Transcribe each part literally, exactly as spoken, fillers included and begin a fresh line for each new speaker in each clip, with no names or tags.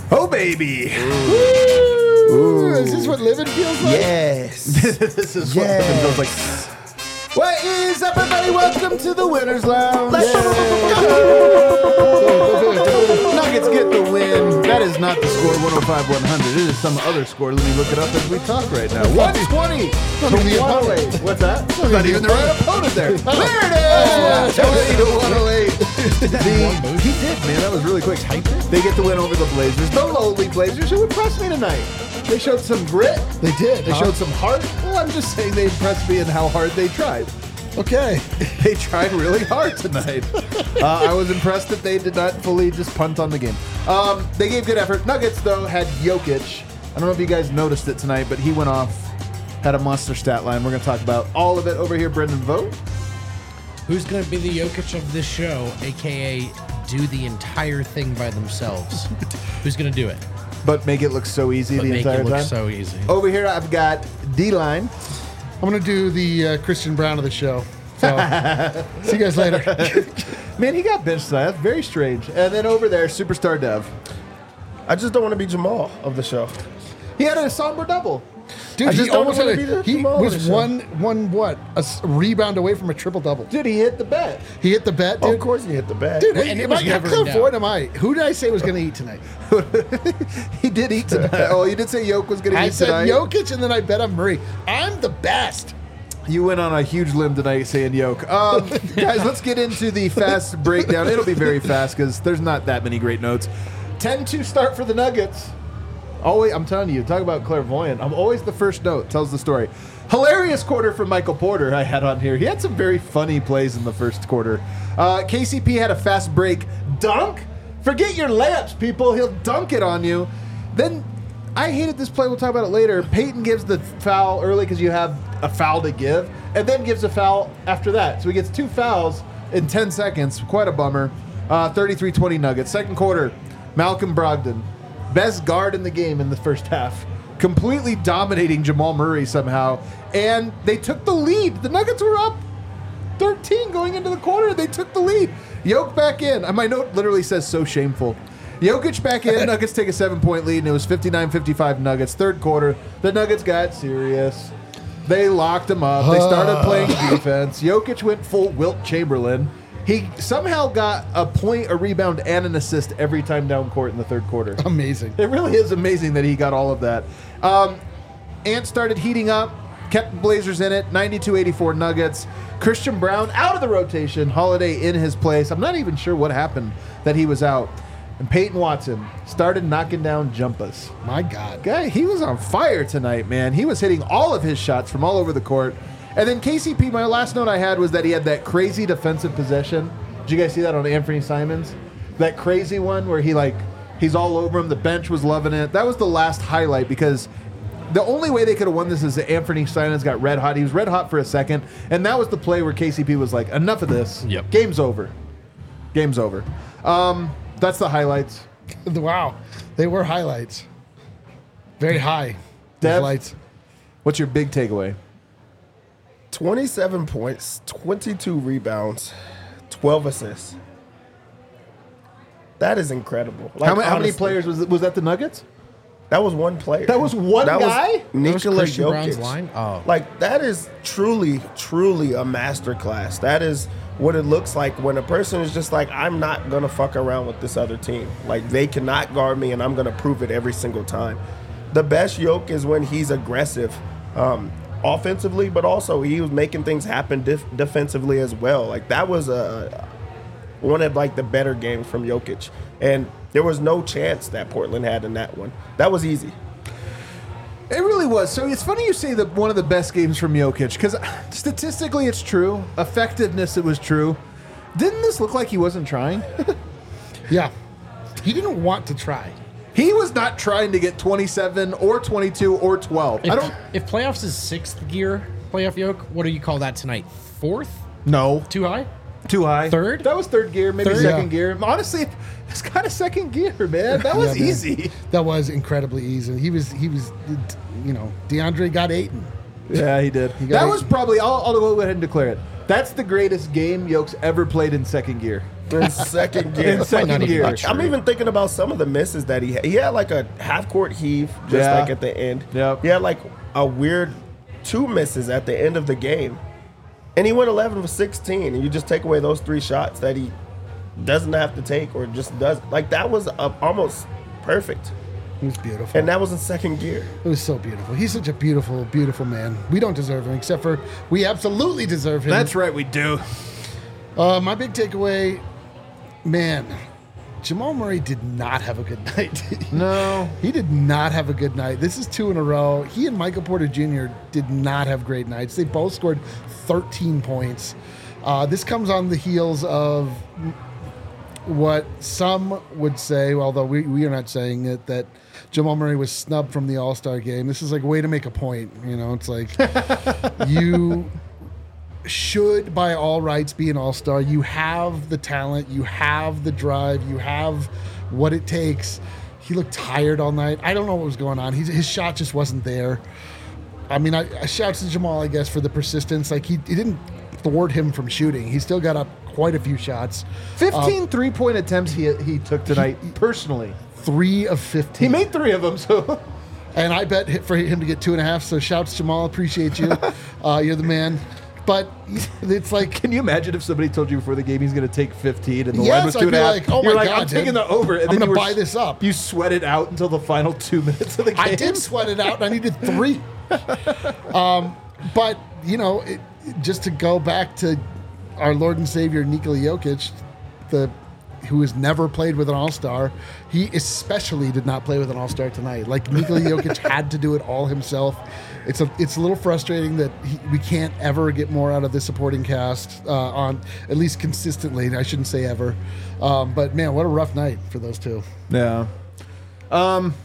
Oh, baby.
Ooh. Ooh. Is this what living feels like?
Yes. This is what
Yes.
living feels like. What is up, everybody? Welcome to the Winner's Lounge. Nuggets get the win. That is not the score, one oh five one hundred. It is some other score. Let me look it up as we talk right now. one twenty to one oh eight. What's that? Not even the right opponent there. There it is. twenty to one oh eight. The, he did, man. That was really quick. They get the win over the Blazers. The lowly Blazers who impressed me tonight. They showed some grit.
They did.
They
huh?
showed some heart. Well, I'm just saying they impressed me in how hard they tried.
Okay.
They tried really hard tonight. uh, I was impressed that they did not fully just punt on the game. Um, they gave good effort. Nuggets, though, had Jokic. I don't know if you guys noticed it tonight, but he went off, had a monster stat line. We're going to talk about all of it over here. Brendan, vote.
Who's going to be the Jokic of this show, a k a do the entire thing by themselves? Who's going to do it?
But make it look so easy
But
the
make
entire
it look
time.
so easy.
Over here, I've got D-line.
I'm going to do the uh, Christian Brown of the show. So, see you guys later.
Man, he got benched tonight. That's very strange. And then over there, Superstar Dev.
I just don't want to be Jamal of the show.
He had a somber double.
Dude,
I
he
just don't
almost had
wanna be
a,
the
he
Jamal of
was
the show.
one, one what? A s- rebound away from a triple-double.
Dude, he hit the bet.
He hit the bet,
Oh,
dude.
of course, you hit the bag.
Dude,
And
and
it
it
was
was
never
how
in doubt.
clairvoyant am I? Who did I say was going to eat tonight?
He did eat tonight. Oh, you did say Yoke was going to
I
eat
said
tonight?
Jokic, and then I bet on Murray. I'm the best.
You went on a huge limb tonight saying Yoke. Um, guys, let's get into the fast breakdown. It'll be very fast because there's not that many great notes. ten two start for the Nuggets. Always, I'm telling you, talk about clairvoyant. I'm always the first note. Tells the story. Hilarious quarter from Michael Porter I had on here. He had some very funny plays in the first quarter. Uh, K C P had a fast break dunk. Forget your layups, people. He'll dunk it on you. Then I hated this play. We'll talk about it later. Peyton gives the foul early because you have a foul to give, and then gives a foul after that. So he gets two fouls in ten seconds. Quite a bummer. Uh, thirty-three twenty Nuggets. Second quarter, Malcolm Brogdon. Best guard in the game in the first half. Completely dominating Jamal Murray somehow. And they took the lead. The Nuggets were up thirteen going into the quarter. They took the lead. Jokic back in. My note literally says so shameful. Jokic back in. Nuggets take a seven-point lead, and it was fifty-nine fifty-five Nuggets. Third quarter, the Nuggets got serious. They locked him up. They started playing defense. Jokic went full Wilt Chamberlain. He somehow got a point, a rebound, and an assist every time down court in the third quarter.
Amazing.
It really is amazing that he got all of that. Um, Ant started heating up, kept Blazers in it, ninety-two eighty-four Nuggets. Christian Brown out of the rotation, Holiday in his place. I'm not even sure what happened that he was out. And Peyton Watson started knocking down jumpers.
My God.
Guy, he was on fire tonight, man. He was hitting all of his shots from all over the court. And then K C P, my last note I had was that he had that crazy defensive possession. Did you guys see that on Anthony Simons? That crazy one where he like, he's all over him. The bench was loving it. That was the last highlight because the only way they could have won this is that Anthony Simons got red hot. He was red hot for a second. And that was the play where K C P was like, enough of this.
Yep.
Game's over. Game's over. Um, that's the highlights.
Wow. They were highlights. Very high.
Dev?
Lights.
What's your big takeaway?
twenty-seven points, twenty-two rebounds, twelve assists. That is incredible. Like,
how, many, how many
honestly,
players was it? Was that the Nuggets?
That was one player.
That was one
that
guy?
Was
That was
Nikola
Christian Brown's
Jokic.
line? Oh.
Like, that is truly, truly a masterclass. That is what it looks like when a person is just like, I'm not going to fuck around with this other team. Like, they cannot guard me, and I'm going to prove it every single time. The best Jokic is when he's aggressive um, offensively, but also he was making things happen def- defensively as well. Like, that was a one of, like, the better games from Jokic. And there was no chance that Portland had in that one. That was easy.
It really was. So it's funny you say that one of the best games from Jokic because statistically it's true. Effectiveness, it was true. Didn't this look like he wasn't trying?
Yeah. He didn't want to try.
He was not trying to get twenty-seven or twenty-two or twelve.
If,
I don't.
if playoffs is sixth gear playoff yoke, what do you call that tonight? Fourth?
No.
Too high?
Too high.
Third?
That was third gear, maybe
Third?
second
Yeah.
gear. Honestly, it's kind of second gear, man. That was
Yeah, man.
easy.
That was incredibly easy. He was, he was, you know, DeAndre got eight.
Yeah, he did.
got
That
it.
was probably, I'll, I'll go ahead and declare it. That's the greatest game Yoke's ever played in second gear.
In second gear.
In second
Not
gear.
even
I'm even thinking about some of the misses that he had. He had like a half court heave just
Yeah.
like at the end.
Yep.
He had like a weird two misses at the end of the game. And he went eleven for sixteen. And you just take away those three shots that he doesn't have to take or just does. Like that was a, almost perfect.
It was beautiful.
And that was in second gear.
It was so beautiful. He's such a beautiful, beautiful man. We don't deserve him, except for we absolutely deserve him.
That's right, we do.
Uh, my big takeaway, man, Jamal Murray did not have a good night.
No.
He did not have a good night. This is two in a row. He and Michael Porter Junior did not have great nights. They both scored thirteen points. Uh, this comes on the heels of what some would say, although we, we are not saying it, that Jamal Murray was snubbed from the All-Star game. This is like a way to make a point. You know, it's like you should, by all rights, be an All-Star. You have the talent. You have the drive. You have what it takes. He looked tired all night. I don't know what was going on. He's, his shot just wasn't there. I mean, I, I shout to Jamal, I guess, for the persistence. Like, he, he didn't thwart him from shooting. He still got up quite a few shots.
fifteen
Um,
three-point attempts he he took tonight, personally.
Three of fifteen.
He made three of them, so...
And I bet hi- for him to get two and a half. So shouts, Jamal. Appreciate you. uh, you're the man. But it's like,
Can you imagine if somebody told you before the game he's going to take fifteen and the
Yes,
line was
I'd
two and
be
a half?
like, oh
You're
my
like,
God,
I'm taking
dude.
the over. And
I'm
then
gonna
you were
buy
s-
this up.
You sweat it out until the final two minutes of the game.
I did sweat it out, and I needed three. um, but, you know, it, just to go back to our Lord and Savior, Nikola Jokic, the who has never played with an All-Star, he especially did not play with an All-Star tonight. Like, Nikola Jokic had to do it all himself. It's a it's a little frustrating that he, we can't ever get more out of the supporting cast uh, on, at least consistently. I shouldn't say ever. Um, but, man, what a rough night for those two.
Yeah. Um,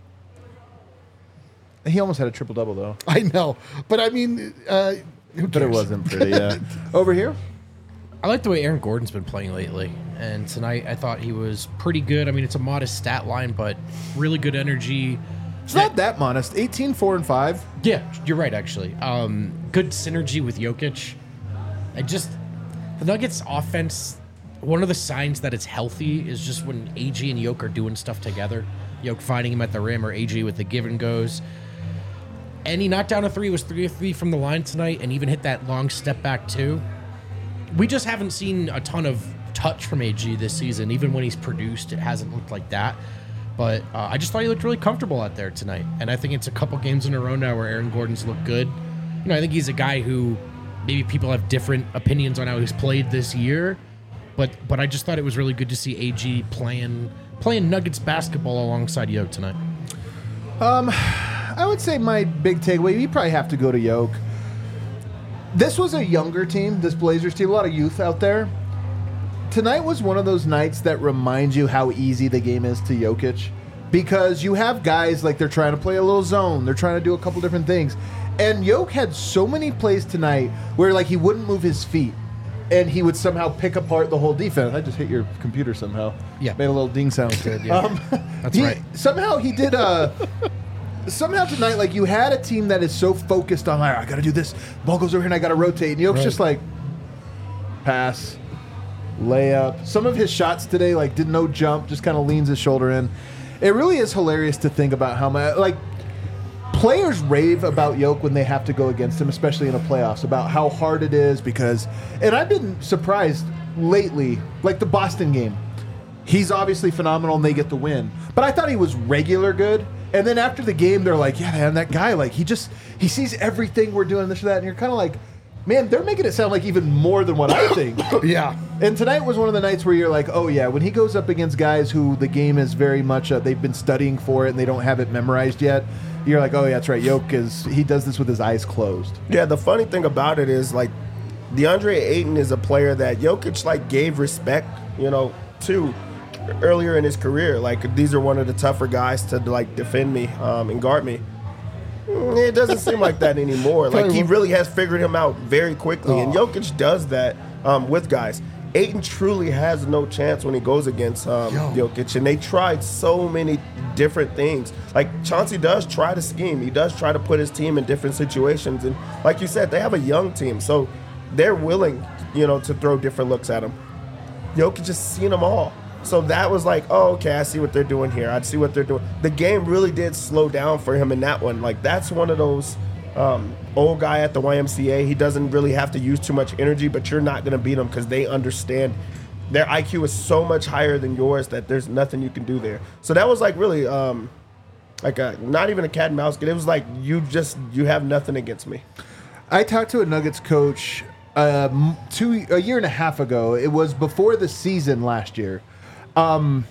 he almost had a triple-double, though.
I know. But, I mean, uh, who
But it
cares?
wasn't pretty, yeah. Over here?
I like the way Aaron Gordon's been playing lately. And tonight I thought he was pretty good. I mean, it's a modest stat line, but really good energy.
It's not that modest. eighteen, four, and five.
Yeah, you're right, actually. Um, good synergy with Jokic. I just, the Nuggets offense, one of the signs that it's healthy is just when A G and Jokic are doing stuff together. Jokic finding him at the rim or A G with the give and goes. And he knocked down a three, it was three of three from the line tonight, and even hit that long step back too. We just haven't seen a ton of touch from A G this season. Even when he's produced, it hasn't looked like that. But uh, I just thought he looked really comfortable out there tonight. And I think it's a couple games in a row now where Aaron Gordon's looked good. You know, I think he's a guy who maybe people have different opinions on how he's played this year. But but I just thought it was really good to see A G playing playing Nuggets basketball alongside Yoke tonight.
I would say my big takeaway, you probably have to go to Yoke. This was a younger team, this Blazers team, a lot of youth out there. Tonight was one of those nights that reminds you how easy the game is to Jokic, because you have guys like they're trying to play a little zone, they're trying to do a couple different things, and Jokic had so many plays tonight where like he wouldn't move his feet, and he would somehow pick apart the whole defense. I just hit your computer somehow.
Yeah.
Made a little ding sound.
yeah.
Um,
That's
he-
right.
Somehow he did uh Somehow tonight, like, you had a team that is so focused on, like, I got to do this. Ball goes over here and I got to rotate. And Jokic's
Right.
just like, pass, layup. Some of his shots today, like, did no jump, just kind of leans his shoulder in. It really is hilarious to think about how much, like, players rave about Jokic when they have to go against him, especially in the playoffs, about how hard it is because, and I've been surprised lately, like the Boston game. He's obviously phenomenal and they get the win. But I thought he was regular good. And then after the game, they're like, yeah, man, that guy, like, he just, he sees everything we're doing, this or that. And you're kind of like, man, they're making it sound like even more than what I think.
Yeah.
And tonight was one of the nights where you're like, oh, yeah, when he goes up against guys who the game is very much, uh, they've been studying for it and they don't have it memorized yet, you're like, oh, yeah, that's right. Jokic is, he does this with his eyes closed.
Yeah, the funny thing about it is, like, DeAndre Ayton is a player that Jokic, like, gave respect, you know, to earlier in his career. Like, these are one of the tougher guys to, like, defend me um, and guard me. Mm, It doesn't seem like that anymore. Like, he really has figured him out very quickly, and Jokic does that um, with guys. Ayton truly has no chance when he goes against um,
Yo.
Jokic, and they tried so many different things. Like, Chauncey does try to scheme. He does try to put his team in different situations, and like you said, they have a young team. So they're willing, you know, to throw different looks at him. Jokic just seen them all. So that was like, oh, okay, I see what they're doing here. I see what they're doing. The game really did slow down for him in that one. Like, that's one of those um, old guy at the Y M C A. He doesn't really have to use too much energy, but you're not going to beat him because they understand their I Q is so much higher than yours that there's nothing you can do there. So that was like really um, like a not even a cat and mouse game. It was like you just you have nothing against me.
I talked to a Nuggets coach um, two a year and a half ago. It was before the season last year. Um,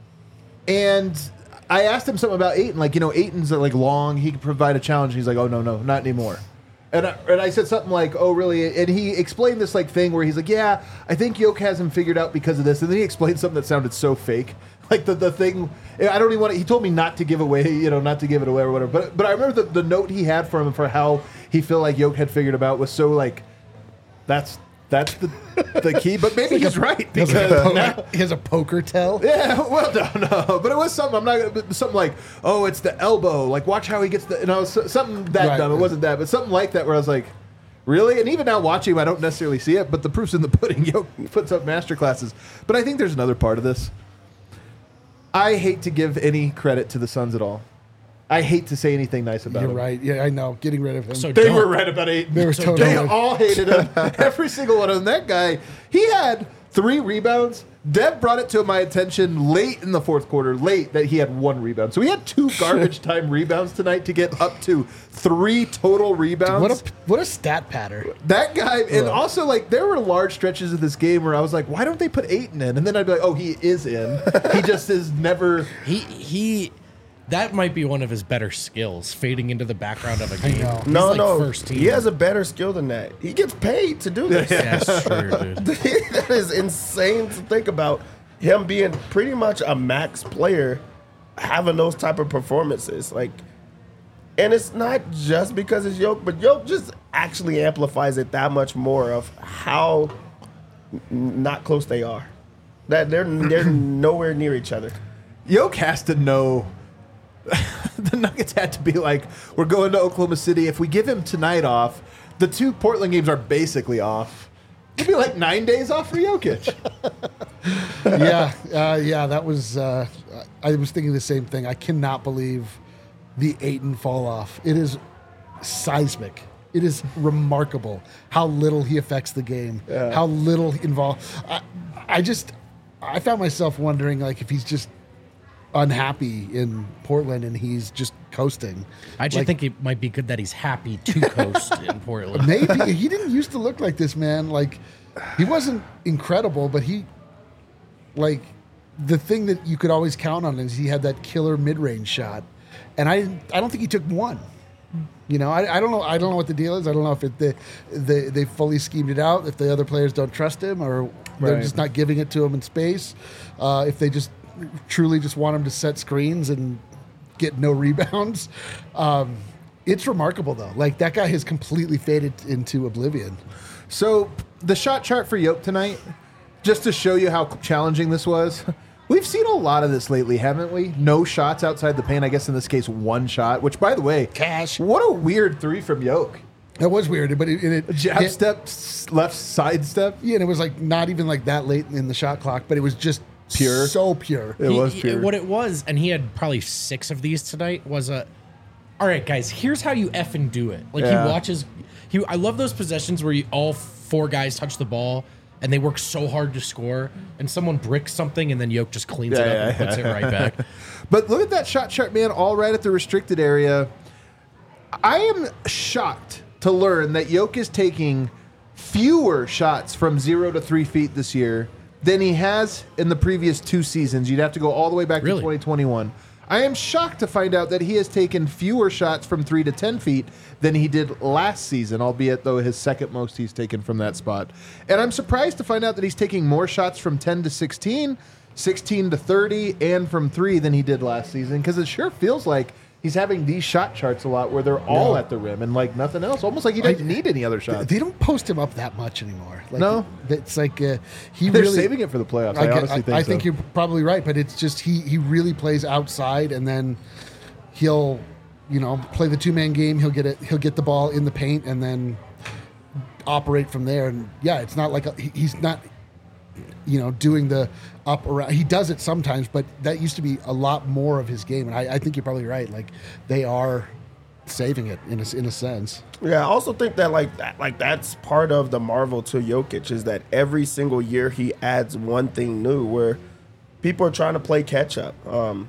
and I asked him something about Ayton, like, you know, Ayton's uh, like long, he could provide a challenge. He's like, oh, no, no, not anymore. And I, and I said something like, oh, really? And he explained this like thing where he's like, yeah, I think Yoke has him figured out because of this. And then he explained something that sounded so fake. Like the, the thing, I don't even want to, he told me not to give away, you know, not to give it away or whatever. But, but I remember the, the note he had for him for how he felt like Yoke had figured him out was so like, that's, That's the the key, but maybe he's right
He has,
because
a poker,
now,
he has a poker tell.
yeah, well, no, no, but it was something. I'm not gonna something like, oh, it's the elbow. Like, watch how he gets the, you know, so- something that
Right.
dumb. It wasn't that, but something like that where I was like, really? And even now watching him, I don't necessarily see it, but the proof's in the pudding. Yo puts up master classes, but I think there's another part of this. I hate to give any credit to the Suns at all. I hate to say anything nice about
You're
him.
right. Yeah, I know. Getting rid of him.
So
They
don't.
were right about eight.
They were
They
totally right.
all hated him. Every single one of them. That guy, he had three rebounds. Deb brought it to my attention late in the fourth quarter, late, that he had one rebound. So he had two garbage time rebounds tonight to get up to three total rebounds.
What a what a stat pattern.
that guy, and
Ugh.
also, like, there were large stretches of this game where I was like, why don't they put Ayton in? And then I'd be like, oh, he is in. He just is never.
He he, that might be one of his better skills, fading into the background of a game.
know.
He's
No,
like
no,
first team.
he has a better skill than that. He gets paid to do this.
That's true, dude.
That is insane to think about. Him being pretty much a max player, having those type of performances, like, and it's not just because it's Yoke, but Yoke just actually amplifies it that much more of how n- not close they are. That they're they're nowhere near each other.
Yoke has to know. The Nuggets had to be like, we're going to Oklahoma City. If we give him tonight off, the two Portland games are basically off. It'd be like nine days off for Jokic.
yeah, uh, yeah, that was. Uh, I was thinking the same thing. I cannot believe the Ayton fall off. It is seismic. It is remarkable how little he affects the game.
Yeah.
How little involved. I, I just, I found myself wondering, like, if he's just unhappy in Portland and he's just coasting.
I just
Like,
think it might be good that he's happy to coast in Portland.
maybe he didn't used to look like this, man. Like, he wasn't incredible, but he, like, the thing that you could always count on is he had that killer mid-range shot, and I, I don't think he took one. You know, I, I don't know. I don't know what the deal is. I don't know if it they, they they fully schemed it out. If the other players don't trust him, or they're
Right.
just not giving it to him in space. Uh, if they just truly just want him to set screens and get no rebounds. Um, it's remarkable though. Like, that guy has completely faded into oblivion.
So the shot chart for Yoke tonight, just to show you how challenging this was. We've seen a lot of this lately, haven't we? No shots outside the paint. I guess in this case, one shot. Which, by the way,
Cash.
What a weird three from Yoke.
That was weird, but it, it, it
Jab
it-
step, s- left side step.
Yeah, and it was like not even like that late in the shot clock, but it was just
Pure.
so pure.
It
He-
was
he-
pure.
What it was, and he had probably six of these tonight, was a, all right, guys, here's how you effing do it. Like,
Yeah.
he watches, he. I love those possessions where you, all four guys touch the ball, and they work so hard to score, and someone bricks something, and then Yoke just cleans it
Yeah,
up
yeah,
and puts
yeah.
it right back.
But look at that shot chart, man, all right at the restricted area. I am shocked to learn that Yoke is taking fewer shots from zero to three feet this year than he has in the previous two seasons. You'd have to go all the way back
Really?
to twenty twenty-one. I am shocked to find out that he has taken fewer shots from three to ten feet than he did last season, albeit though his second most he's taken from that spot. And I'm surprised to find out that he's taking more shots from ten to sixteen, sixteen to thirty, and from three than he did last season, because it sure feels like he's having these shot charts a lot where they're all
No.
at the rim and like nothing else. Almost like he doesn't need any other shots.
They don't post him up that much anymore. Like,
No.
it's like uh, he
They're
really
saving it for the playoffs. I,
I, get-
honestly
I-
think
I
so.
think you're probably right, but it's just he he really plays outside, and then he'll, you know, play the two man game. He'll get it. He'll get the ball in the paint, and then operate from there. And yeah, it's not like a, he- he's not, you know, doing the up around. He does it sometimes, but that used to be a lot more of his game. And I, I think you're probably right. Like they are saving it in a, in a sense.
Yeah, I also think that like that like that's part of the marvel to Jokic is that every single year he adds one thing new where people are trying to play catch up. Um,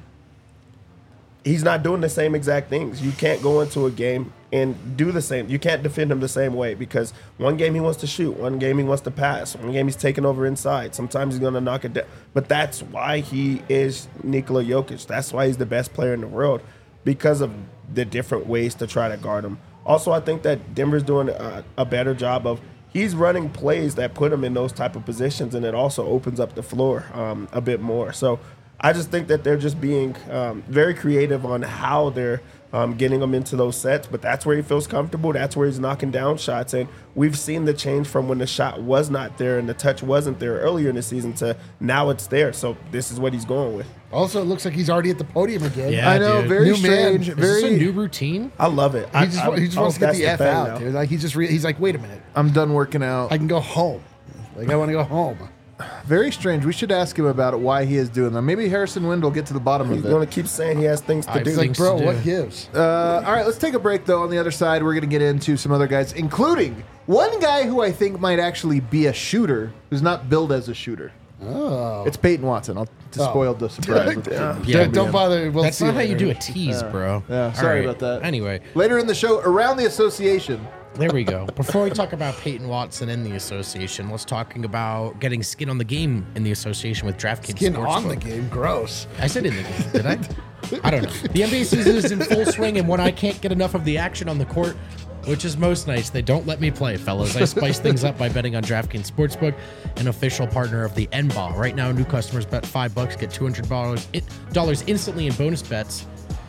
he's not doing the same exact things. You can't go into a game and do the same. You can't defend him the same way because one game he wants to shoot, one game he wants to pass, one game he's taking over inside. Sometimes he's going to knock it down. But that's why he is Nikola Jokic. That's why he's the best player in the world because of the different ways to try to guard him. Also, I think that Denver's doing a, a better job of he's running plays that put him in those type of positions, and it also opens up the floor um, a bit more. So I just think that they're just being um, very creative on how they're um, getting him into those sets, but that's where he feels comfortable. That's where he's knocking down shots, and we've seen the change from when the shot was not there and the touch wasn't there earlier in the season to now it's there. So this is what he's going with.
Also, it looks like he's already at the podium again.
Yeah,
I know,
dude.
very
New man.
strange.
Is
Is this
Very.
a new routine?
I love it.
He
I,
just,
I,
he just
I
wants
hope
to get the
that's
F
thing
out.
now.
Dude. Like he just re- he's like, wait a minute,
I'm done working out.
I can go home. Like I want to go home.
Very strange. We should ask him about it. Why he is doing that. Maybe Harrison Wind will get to the bottom
He's
of it.
going to keep saying he has things to
I
do.
It's like,
Things
bro,
to
what
do.
gives?
Uh, all right, let's take a break, though. On the other side, we're going to get into some other guys, including one guy who I think might actually be a shooter, who's not billed as a shooter.
Oh,
It's Peyton Watson. I'll to
Oh.
spoil the surprise.
Yeah.
Yeah,
don't, don't bother. We'll
That's
see
not how
later.
you do a tease, bro.
Yeah,
All
sorry
right.
about that.
Anyway,
Later in the show, around the association.
there we go. Before we talk about Peyton Watson and the association, let's talking about getting skin on the game in the association with DraftKings
Skin on
Sportsbook.
the game. Gross.
I said in the game, did I? I don't know. The N B A season is in full swing, and when I can't get enough of the action on the court, which is most nights, they don't let me play, fellas. I spice things up by betting on DraftKings Sportsbook, an official partner of the N B A. Right now, new customers bet five bucks, get two hundred dollars dollars instantly in bonus bets.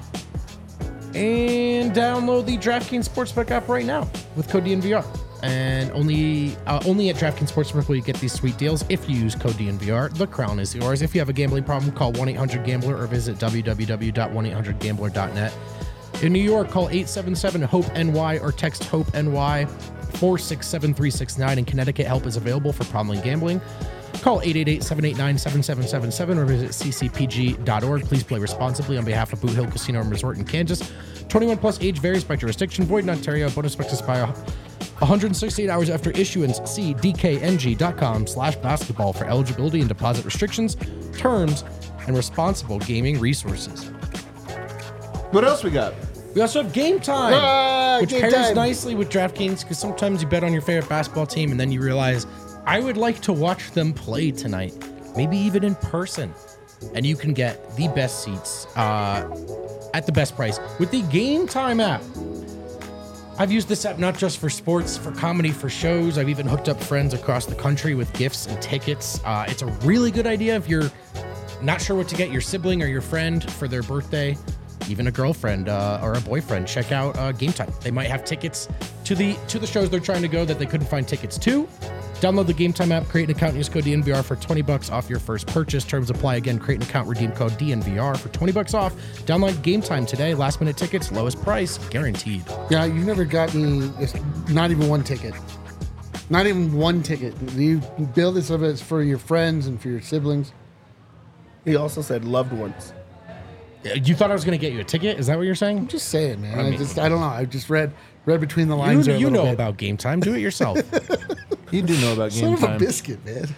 And download the DraftKings Sportsbook app right now with code D N V R. And only uh, only at DraftKings Sportsbook will you get these sweet deals if you use code D N V R. The crown is yours. If you have a gambling problem, call one eight hundred gambler or visit w w w dot one eight hundred gambler dot net. In New York, call eight seven seven hope N Y or text HOPE-NY four six seven three six nine. In Connecticut, help is available for problem gambling. Call eight eight eight, seven eight nine, seven seven seven seven or visit c c p g dot org. Please play responsibly on behalf of Boot Hill Casino and Resort in Kansas. twenty-one plus age varies by jurisdiction. Void in Ontario. Bonus expected by one hundred sixty-eight hours after issuance. See d k n g dot com slash basketball for eligibility and deposit restrictions, terms, and responsible gaming resources.
What else we got?
We also have Game Time,
Ah,
which
Game
pairs
Time.
nicely with DraftKings because sometimes you bet on your favorite basketball team and then you realize, I would like to watch them play tonight, maybe even in person. And you can get the best seats uh, at the best price with the Game Time app. I've used this app not just for sports, for comedy, for shows. I've even hooked up friends across the country with gifts and tickets. Uh, it's a really good idea if you're not sure what to get your sibling or your friend for their birthday, even a girlfriend uh, or a boyfriend. Check out uh, Game Time. They might have tickets to the to the shows they're trying to go that they couldn't find tickets to. Download the Game Time app, create an account, and use code D N V R for twenty bucks off your first purchase. Terms apply. Again, create an account, redeem code D N V R for twenty bucks off. Download Game Time today. Last minute tickets, lowest price guaranteed.
Yeah, you've never gotten it's not even one ticket. Not even one ticket. You bill this of it for your friends and for your siblings.
He also said loved ones.
You thought I was going to get you a ticket? Is that what you're saying?
I'm just saying, man. I,
I mean-
just I don't know. I just read read between the
You,
lines. there a
you
little
know
bit.
about Game Time. Do it yourself.
You do know about
Son
Game
of a
Time.
biscuit, man.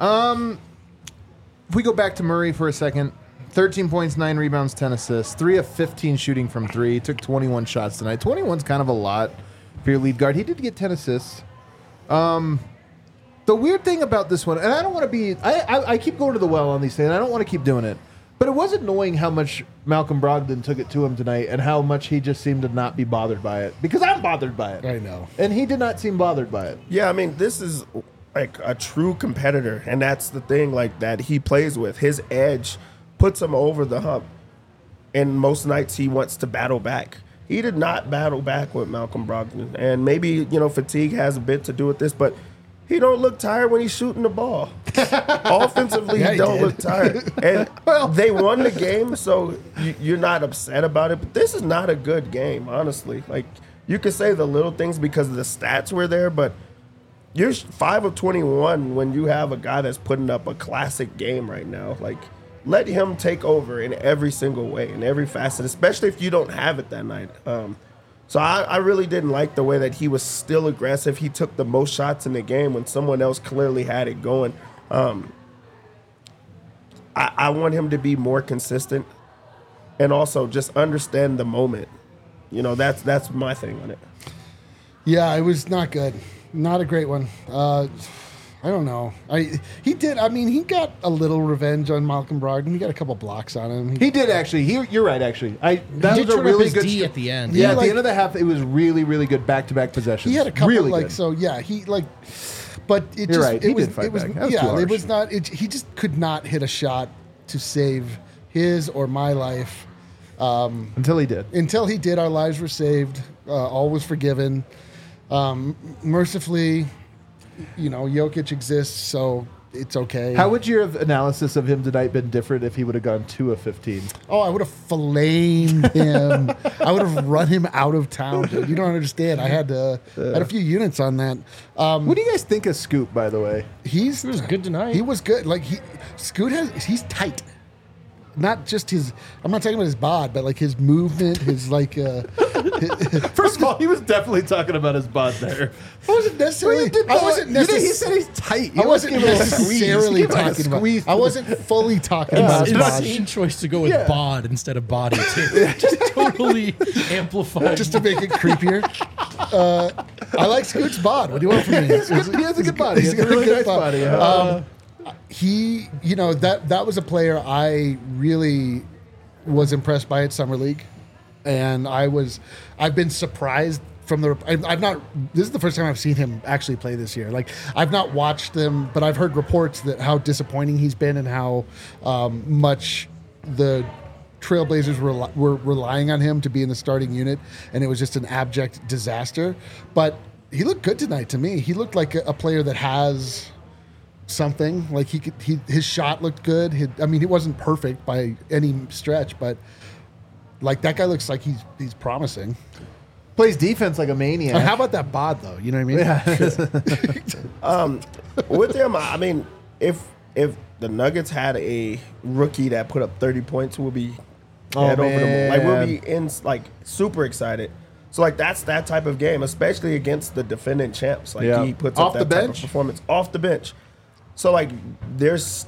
If we go back to Murray for a second, thirteen points, nine rebounds, ten assists, three of fifteen shooting from three. Took twenty-one shots tonight. twenty-one's kind of a lot for your lead guard. He did get ten assists. Um, the weird thing about this one, and I don't want to be, I, I I keep going to the well on these things. I don't want to keep doing it, but it was annoying how much Malcolm Brogdon took it to him tonight, and how much he just seemed to not be bothered by it. Because I'm bothered by it.
I know.
And he did not seem bothered by it.
Yeah, I mean, this is like a true competitor, and that's the thing like that he plays with. His edge puts him over the hump, and most nights he wants to battle back. He did not battle back with Malcolm Brogdon, and maybe, you know, fatigue has a bit to do with this, but he don't look tired when he's shooting the ball. Offensively,
Yeah,
he
he
don't
did.
look tired. And they won the game, so you- you're not upset about it. But this is not a good game, honestly. Like, you could say the little things because the stats were there, but you're five of twenty-one when you have a guy that's putting up a classic game right now. Like, let him take over in every single way, in every facet, especially if you don't have it that night. Um, so I, I really didn't like the way that he was still aggressive. He took the most shots in the game when someone else clearly had it going. Um, I, I want him to be more consistent and also just understand the moment. You know, that's that's my thing on it.
Yeah, it was not good. Not a great one. Uh, I don't know. I he did. I mean, he got a little revenge on Malcolm Brogdon. He got a couple blocks on him.
He did actually. He, you're right. Actually, I that
He
was
did
a
turn
really
up his
good
D
str-
at the end.
Yeah,
Yeah,
at
like-
the end of the half, it was really, really good back-to-back possessions.
He had a couple
really
like
good.
so. Yeah, he like. But it
You're
just
right. He
it was
did fight
it was
back. That was
yeah
too
it
harsh.
was not. It, he just could not hit a shot to save his or my life.
Until he did.
Until he did, our lives were saved. Uh, all was forgiven. Um, mercifully, you know, Jokic exists, so it's okay.
How would your analysis of him tonight been different if he would have gone two of fifteen?
Oh, I would have filleted him. I would have run him out of town, dude. You don't understand. I had to, had a few units on that. Um,
What do you guys think of Scoop, by the way?
he's
He was good tonight.
He was good. Like he, Scoot has. He's tight. Not just his. I'm not talking about his bod, but like his movement, his like. Uh,
First of all, he was definitely talking about his bod there.
I wasn't necessarily. I wasn't
You know,
necessarily.
he said he's tight.
I wasn't necessarily
He gave like a
talking about.
squeeze
I
to
wasn't fully talking about his bod.
Insane choice to go with
Yeah.
bod instead of body too. Just totally amplified.
Just to make it creepier. Uh, I like Scoot's bod. What do you want from me?
He has a good body. He has a
got
really
good
nice
bod.
body. Uh,
He, you know, that that was a player I really was impressed by at Summer League, and I was, I've been surprised from the. I've, I've not. This is the first time I've seen him actually play this year. Like I've not watched them, but I've heard reports that how disappointing he's been and how um, much the Trailblazers were, were relying on him to be in the starting unit, and it was just an abject disaster. But he looked good tonight to me. He looked like a, a player that has something. Like he could, he his shot looked good. He, I mean, he wasn't perfect by any stretch, but like that guy looks like he's he's promising.
plays defense like a maniac.
And how about that bod though? You know what I mean?
Um, with them, I mean, if if the Nuggets had a rookie that put up thirty points, we'll be
Oh,
head over the moon. Like we'll
man.
be in like super excited. So like that's that type of game, especially against the defending champs. Like
Yeah.
he puts
Off
up
the
that type
bench?
of performance off the bench. So like there's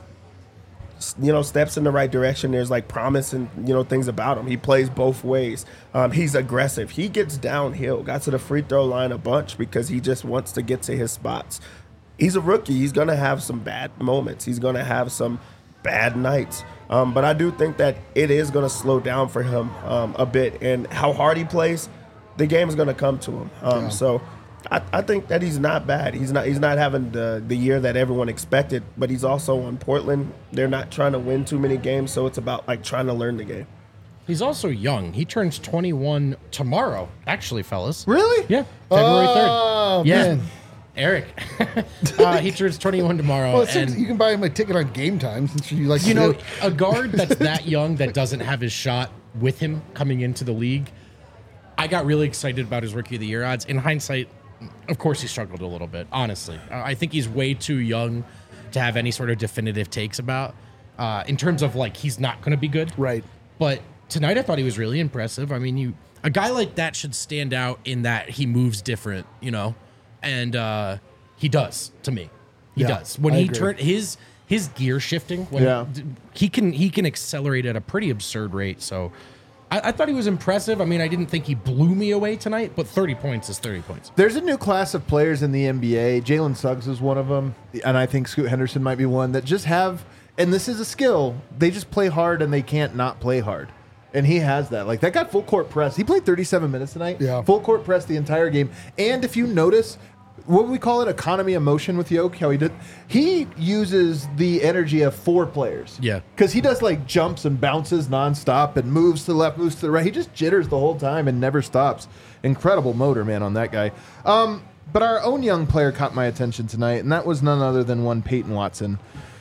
you know steps in the right direction. There's like promise and you know things about him. He plays both ways. Um, he's aggressive. He gets downhill. Got to the free throw line a bunch because he just wants to get to his spots. He's a rookie. He's gonna have some bad moments. He's gonna have some bad nights. Um, but I do think that it is gonna slow down for him um, a bit. And how hard he plays, the game is gonna come to him. Um,
Yeah.
So. I, I think that he's not bad. He's not. He's not having the the year that everyone expected. But he's also on Portland. They're not trying to win too many games, so it's about like trying to learn the game.
He's also young. He turns twenty-one tomorrow, actually, fellas.
Really?
Yeah, February third.
Oh
Yeah,
man!
Eric. uh, he turns twenty-one tomorrow.
Well, it seems
and
you can buy him a ticket on Game Time since you like.
you
to
know,
do-
a guard that's that young that doesn't have his shot with him coming into the league. I got really excited about his rookie of the year odds. In hindsight, of course, he struggled a little bit. Honestly, uh, I think he's way too young to have any sort of definitive takes about. Uh, in terms of like, he's not going to be good,
right.
But tonight, I thought he was really impressive. I mean, you a guy like that should stand out in that he moves different, you know, and uh, he does to me. He
Yeah,
does when
I
he
agree.
turned his his gear shifting. When
Yeah.
he can he can accelerate at a pretty absurd rate. So I, I thought he was impressive. I mean, I didn't think he blew me away tonight, but thirty points is thirty points.
There's a new class of players in the N B A. Jalen Suggs is one of them, and I think Scoot Henderson might be one that just have, and this is a skill, they just play hard and they can't not play hard. And he has that. Like, that guy full court press. He played thirty-seven minutes tonight.
Yeah.
Full court press the entire game. And if you notice, what would we call it? Economy of motion with Yoke, how he did. He uses the energy of four players.
Yeah.
Because he does like jumps and bounces nonstop and moves to the left, moves to the right. He just jitters the whole time and never stops. Incredible motor, man, on that guy. Um, but our own young player caught my attention tonight, and that was none other than one Peyton Watson.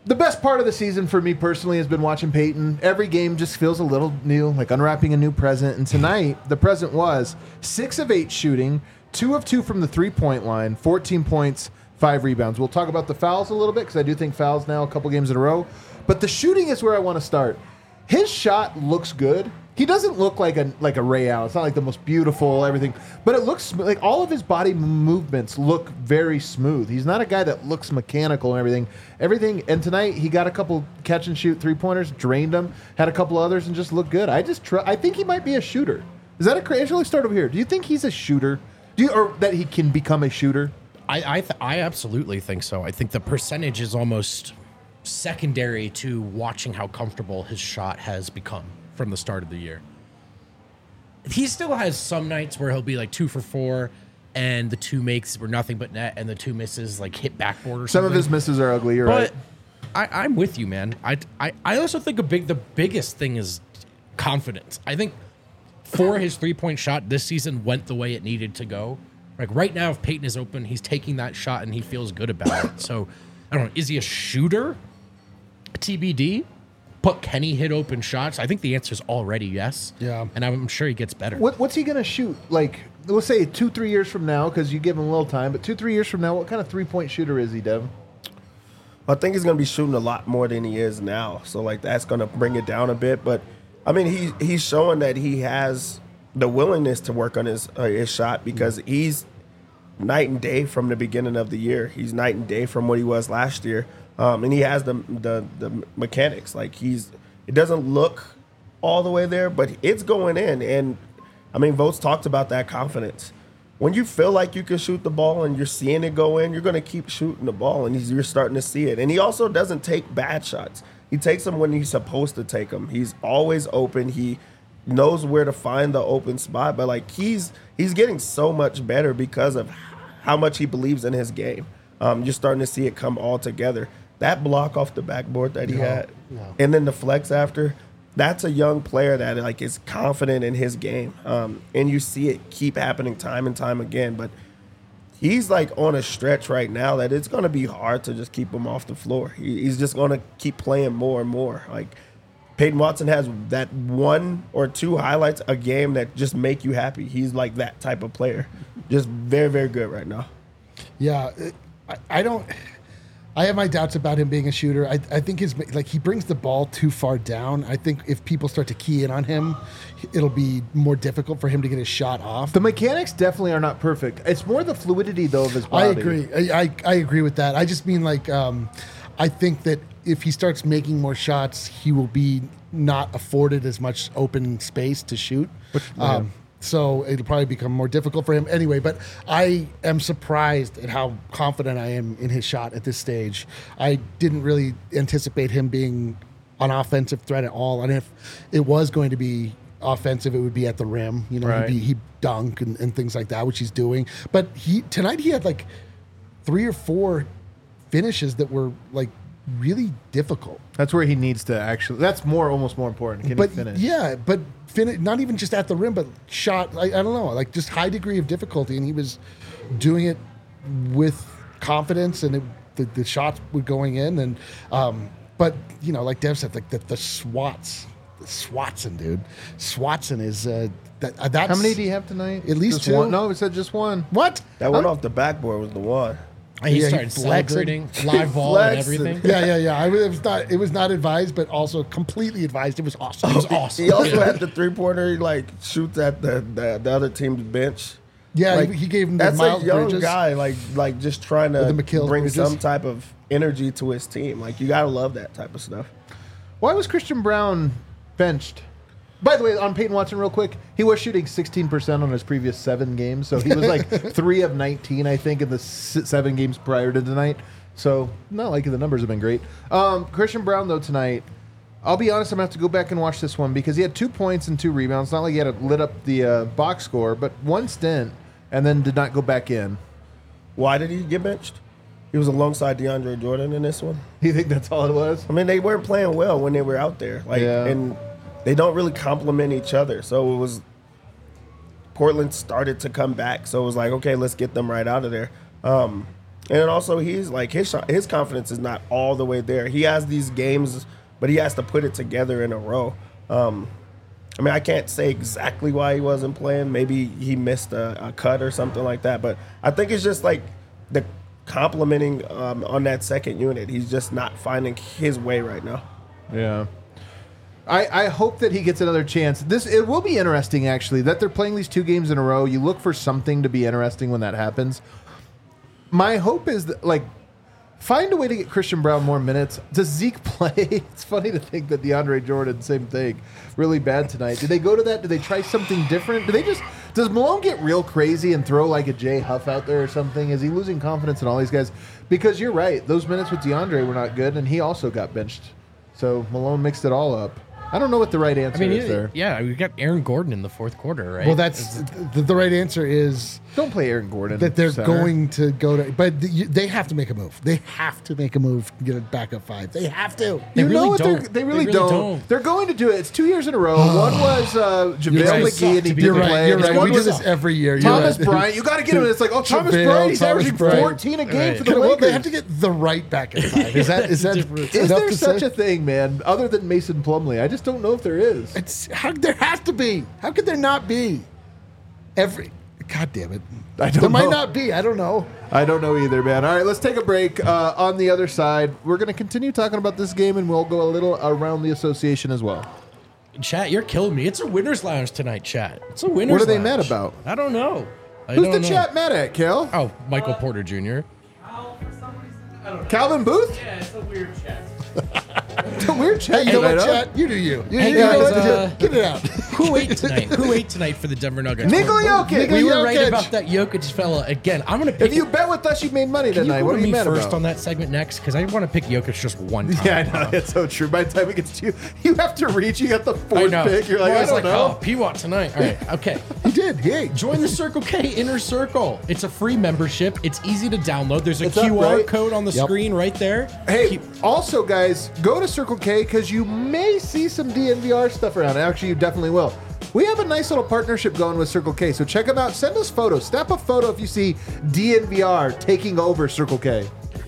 The best part of the season for me personally has been watching Peyton. Every game just feels a little new, like unwrapping a new present. And tonight, the present was six of eight shooting, two of two from the three-point line, fourteen points, five rebounds. We'll talk about the fouls a little bit because I do think fouls now a couple games in a row. But the shooting is where I want to start. His shot looks good. He doesn't look like a like a Ray Allen. It's not like the most beautiful everything, but it looks sm- like all of his body movements look very smooth. He's not a guy that looks mechanical and everything. Everything. And tonight he got a couple catch and shoot three pointers, drained them, had a couple others, and just looked good. I just tr- I think he might be a shooter. Is that a crazy? Let's start over here. Do you think he's a shooter? Do you or that he can become a shooter?
I I, th- I absolutely think so. I think the percentage is almost secondary to watching how comfortable his shot has become from the start of the year. He still has some nights where he'll be like two for four and the two makes were nothing but net and the two misses like hit backboard or
Some
something.
of his misses are ugly, you're
But
right.
I, I'm with you, man. I, I, I also think a big the biggest thing is confidence. I think for his three-point shot this season went the way it needed to go. Like right now, if Peyton is open, he's taking that shot and he feels good about it. So I don't know. Is he a shooter? T B D? But can he hit open shots? I think the answer is already yes.
Yeah.
And I'm sure he gets better.
What, what's he going to shoot? Like, let's say two, three years from now, because you give him a little time, but two, three years from now, what kind of three-point shooter is he, Dev?
I think he's going to be shooting a lot more than he is now. So, like, that's going to bring it down a bit. But, I mean, he he's showing that he has the willingness to work on his, uh, his shot because he's night and day from the beginning of the year. He's night and day from what he was last year. Um, and he has the, the the mechanics. Like, he's it doesn't look all the way there, but it's going in. And, I mean, Votes talked about that confidence. When you feel like you can shoot the ball and you're seeing it go in, you're going to keep shooting the ball, and he's, you're starting to see it. And he also doesn't take bad shots. He takes them when he's supposed to take them. He's always open. He knows where to find the open spot. But, like, he's he's getting so much better because of how much he believes in his game. Um, you're starting to see it come all together. That block off the backboard that he
No,
had,
no.
and then the flex after, that's a young player that like is confident in his game. Um, and you see it keep happening time and time again. But he's like on a stretch right now that it's going to be hard to just keep him off the floor. He, he's just going to keep playing more and more. Like Peyton Watson has that one or two highlights a game that just make you happy. He's like that type of player. Just very, very good right now.
Yeah, it- I, I don't. I have my doubts about him being a shooter. I, I think his like he brings the ball too far down. I think if people start to key in on him, it'll be more difficult for him to get his shot off.
The mechanics definitely are not perfect. It's more the fluidity, though, of his
I
body.
agree. I, I I agree with that. I just mean like um, I think that if he starts making more shots, he will be not afforded as much open space to shoot. Um, so it'll probably become more difficult for him anyway. But I am surprised at how confident I am in his shot at this stage. I didn't really anticipate him being an offensive threat at all. And if it was going to be offensive, it would be at the rim. You know,
Right.
he'd, be, he'd dunk and, and things like that, which he's doing. But he tonight he had like three or four finishes that were like really difficult.
That's where he needs to actually. That's more, almost more important. Can
But
he finish?
yeah, but finish not even just at the rim, but shot. I, I don't know, like just high degree of difficulty, and he was doing it with confidence, and it, the the shots were going in, and um, but you know, like Dev said, like the, the swats, the Swatson, dude, Swatson is uh, that uh, that's
How many do you have tonight?
At least
Just
two?
One? No, it said just one.
what?
That one
Huh?
off the backboard was the one.
And he
Yeah, he
started
flexed it.
celebrating live ball and
Flexed it.
everything.
Yeah, yeah, yeah. I, it was not. It was not advised, but also completely advised. It was awesome.
It was awesome.
He also
Yeah.
had the three pointer. He like shoots at the, the the other team's bench.
Yeah,
Like,
he, he gave him the
That's
Miles
a young
Bridges.
guy, like like just trying to
With the McHale
bring
Bridges.
some type of energy to his team. Like you gotta love that type of stuff.
Why was Christian Brown benched? By the way, on Peyton Watson, real quick, he was shooting sixteen percent on his previous seven games. So he was like three of nineteen, I think, in the s- seven games prior to tonight. So not like the numbers have been great. Um, Christian Brown, though, tonight, I'll be honest, I'm going to have to go back and watch this one because he had two points and two rebounds. Not like he had to lit up the uh, box score, but one stint and then did not go back in.
Why did he get benched? He was alongside DeAndre Jordan in this one.
You think that's all it was?
I mean, they weren't playing well when they were out there. Like,
Yeah.
and they don't really complement each other. So it was Portland started to come back. So it was like, okay, let's get them right out of there. Um, And then also he's like his shot, his confidence is not all the way there. He has these games, but he has to put it together in a row. Um, I mean, I can't say exactly why he wasn't playing. Maybe he missed a, a cut or something like that. But I think it's just like the complimenting um, on that second unit. He's just not finding his way right now.
Yeah. I, I hope that he gets another chance. This it will be interesting, actually, that they're playing these two games in a row. You look for something to be interesting when that happens. My hope is that, like, find a way to get Christian Braun more minutes. Does Zeke play? It's funny to think that DeAndre Jordan, same thing, really bad tonight. Do they go to that? Do they try something different? Do they just does Malone get real crazy and throw like a Jay Huff out there or something? Is he losing confidence in all these guys? Because you're right, those minutes with DeAndre were not good, and he also got benched. So Malone mixed it all up. I don't know what the right answer
I mean,
is there.
yeah, we got Aaron Gordon in the fourth quarter, right?
Well, that's the, the right answer is
Don't play Aaron Gordon.
that they're
center.
going to go to, but the, you, they have to make a move. They have to make a move to get it back up five. They have to.
They
You
really
know what? They're,
don't.
they really,
They really
don't.
don't.
They're going to do it. It's two years in a row. One was uh, JaVale
right.
McGee, and he
You're
didn't
right,
play.
you're
And
right.
One
We do
was
this every year. You're
Thomas
right.
Bryant. You got to get him. And it's like, oh, Thomas
JaVale,
Bryant. He's
Thomas
averaging
Bryant.
fourteen a game
Right.
for the
Well,
Lakers.
they have to get the right back at five. Is that is that
Different.
Is
enough
there
to
such
say?
a thing, man, other than Mason Plumlee? I just don't know if there is.
It's how there has to be. How could there not be? Every God damn it.
I don't
there might
know.
not be. I don't know.
I don't know either, man. All right, let's take a break. Uh, on the other side, we're going to continue talking about this game, and we'll go a little around the association as well.
Chat, you're killing me. It's a winner's lounge tonight, chat. It's a winner's
What are they
lounge.
mad about?
I don't know. I
Who's
don't
the
know.
chat mad at, Kel?
Oh, Michael Porter Junior
Calvin Booth?
Yeah, it's a weird chat.
It's a weird chat.
Hey, you know
tonight,
what,
huh?
Chat? You do you. You,
Hey,
you know
guys,
what?
uh,
Get it out.
Who ate tonight? Who ate tonight for the Denver Nuggets?
Nikola Jokic.
We were
Jokic.
right about that Jokic fella again. I'm gonna pick.
If you bet with us, you made money
Can you
tonight.
go
What
to
are you
me
mad
first
about?
on that segment next? Because I want to pick Jokic just one time.
Yeah, I know. It's so true. By the time it gets to you, you have to reach. You got the
I
fourth
know.
pick. You're like,
Well,
I
was
don't
like,
know.
oh, P-Watt tonight. All right, okay.
He did. He ate.
Join the Circle K Inner Circle. It's a free membership. It's easy to download. There's a
It's up,
Q R
right?
code on the
Yep.
screen right there.
Hey,
Keep-
also, guys, go to Circle K because you may see some D N V R stuff around. Actually, you definitely will. We have a nice little partnership going with Circle K, so check them out. Send us photos. Snap a photo if you see D N V R taking over Circle K.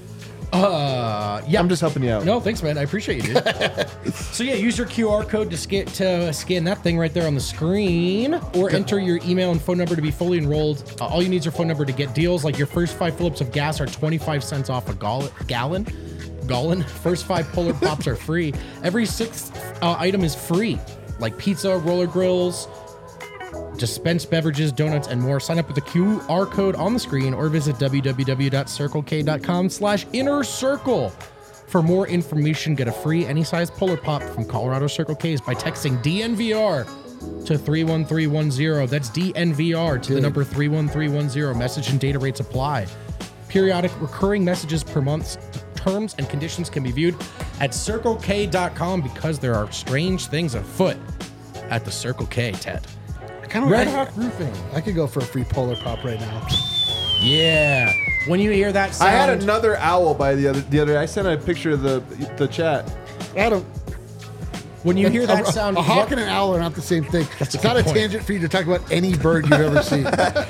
Uh, yeah.
I'm just helping you out.
No, thanks, man. I appreciate you, dude. So yeah, use your Q R code to scan to scan that thing right there on the screen, or enter your email and phone number to be fully enrolled. Uh, all you need is your phone number to get deals. Like your first five Phillips of gas are twenty-five cents off a gall- gallon. Gallon. First five Polar Pops are free. Every sixth uh, item is free, like pizza, roller grills, dispensed beverages, donuts, and more. Sign up with the Q R code on the screen or visit www.circlek.com slash inner circle. For more information, get a free any size Polar Pop from Colorado Circle K's by texting D N V R to three one three one zero. That's D N V R to the number three one three one zero. Message and data rates apply. Periodic recurring messages per month. Terms and conditions can be viewed at circle k dot com because there are strange things afoot at the Circle K, Ted.
I kind of
Red
I,
Hawk Roofing.
I could go for a free Polar Pop right now.
Yeah. When you hear that
I
sound,
had another owl by the other the other day. I sent a picture of the the chat.
Adam,
when you hear that
a,
sound,
a hawk
what-
and an owl are not the same thing. It's
a
not
good
a
point.
tangent for you to talk about any bird you've ever seen.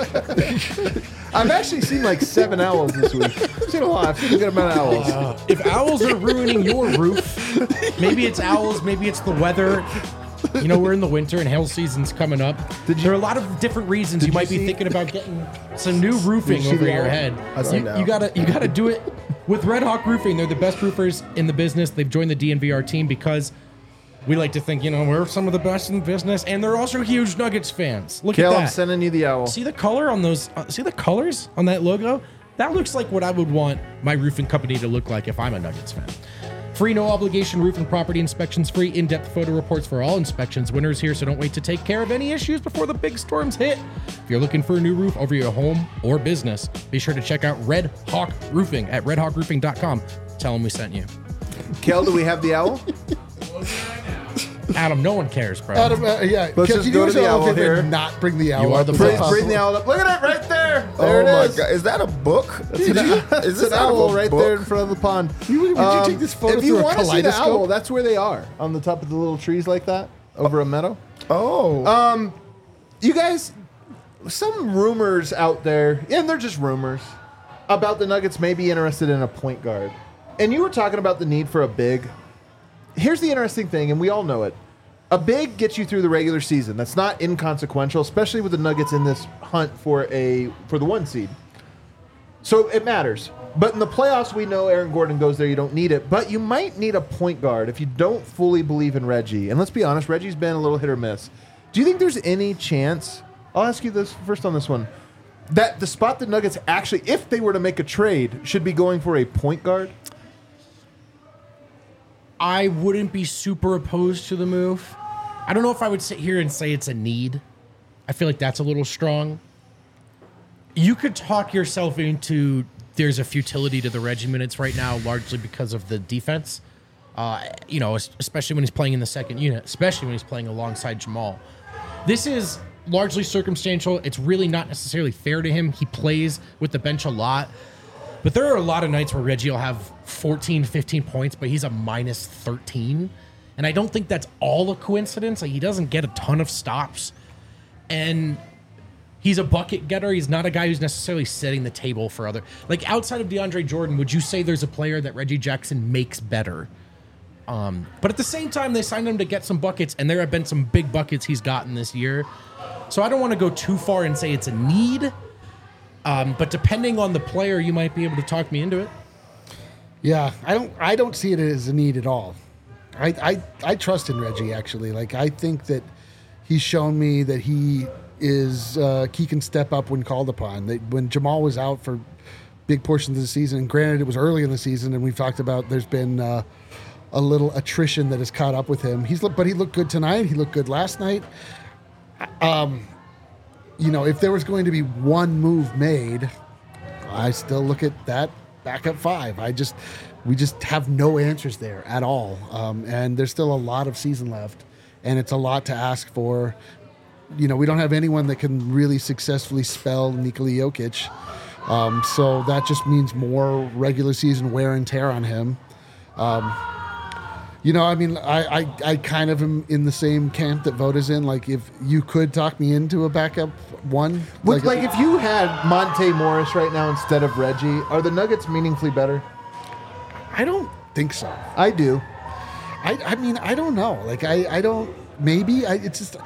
I've actually seen like seven owls this week. I've seen a lot. I've seen a good amount of owls.
Uh, if owls are ruining your roof, maybe it's owls, maybe it's the weather. You know, we're in the winter and hail season's coming up.
Did you-
there are a lot of different reasons
Did
you
you
might be
see-
thinking about getting some new roofing
Did you see
over
the
your
owl?
head.
I see
You,
now.
you gotta you gotta do it with Red Hawk Roofing. They're the best roofers in the business. They've joined the D N V R team because we like to think, you know, we're some of the best in the business, and they're also huge Nuggets fans. Look
Kel,
at
I'm
that.
sending you the owl.
See the color on those? Uh, see the colors on that logo? That looks like what I would want my roofing company to look like if I'm a Nuggets fan. Free, no obligation roof and property inspections. Free in-depth photo reports for all inspections. Winter's here, so don't wait to take care of any issues before the big storms hit. If you're looking for a new roof over your home or business, be sure to check out Red Hawk Roofing at red hawk roofing dot com. Tell them we sent you.
Kel, do we have the owl?
Adam, no one cares, bro.
Adam, uh, yeah,
Let's
can
just
you
go
do
to the
yourself a
owl
favor
here.
and not bring the owl
You are
up?
the
Is
boss.
that
Bring, bring the
possible?
owl up. Look at it right there. There
oh
it
my
is.
god, is that a book?
It's an,
Is
it's
this
an
out of
owl
a
right
book?
there in front of the pond. Um,
You- would you take this photo
if you
through a
want to see the
kaleidoscope?
owl, that's where they are, on the top of the little trees like that, over a meadow.
Oh,
Um, you guys, some rumors out there, and they're just rumors, about the Nuggets may be interested in a point guard. And you were talking about the need for a big. Here's the interesting thing, and we all know it. A big gets you through the regular season. That's not inconsequential, especially with the Nuggets in this hunt for a for the one seed. So it matters. But in the playoffs, we know Aaron Gordon goes there. You don't need it. But you might need a point guard if you don't fully believe in Reggie. And let's be honest, Reggie's been a little hit or miss. Do you think there's any chance, I'll ask you this first on this one, that the spot the Nuggets actually, if they were to make a trade, should be going for a point guard?
I wouldn't be super opposed to the move. I don't know if I would sit here and say it's a need. I feel like that's a little strong. You could talk yourself into there's a futility to the Reggie minutes right now, largely because of the defense. Uh, you know, especially when he's playing in the second unit, especially when he's playing alongside Jamal. This is largely circumstantial. It's really not necessarily fair to him. He plays with the bench a lot. But there are a lot of nights where Reggie will have fourteen, fifteen points, but he's a minus thirteen. And I don't think that's all a coincidence. Like, he doesn't get a ton of stops. And he's a bucket getter. He's not a guy who's necessarily setting the table for other. Like, outside of DeAndre Jordan, would you say there's a player that Reggie Jackson makes better? Um, but at the same time, they signed him to get some buckets, and there have been some big buckets he's gotten this year. So I don't want to go too far and say it's a need. Um, but depending on the player, you might be able to talk me into it.
Yeah, I don't. I don't see it as a need at all. I, I, I trust in Reggie, actually. Like, I think that he's shown me that he is uh, he can step up when called upon. That when Jamal was out for big portions of the season, and granted it was early in the season, and we've talked about there's been uh, a little attrition that has caught up with him. He's but he looked good tonight. He looked good last night. Um, you know, if there was going to be one move made, I still look at that backup five. I just, we just have no answers there at all. Um, and there's still a lot of season left, and it's a lot to ask for. You know, we don't have anyone that can really successfully spell Nikola Jokic. Um, so that just means more regular season wear and tear on him. Um, You know, I mean, I, I, I kind of am in the same camp that Voda's in. Like, if you could talk me into a backup one.
Would, like, like, if you had Monte Morris right now instead of Reggie, are the Nuggets meaningfully better?
I don't think so.
I do.
I, I mean, I don't know. Like, I, I don't, maybe. I, it's just,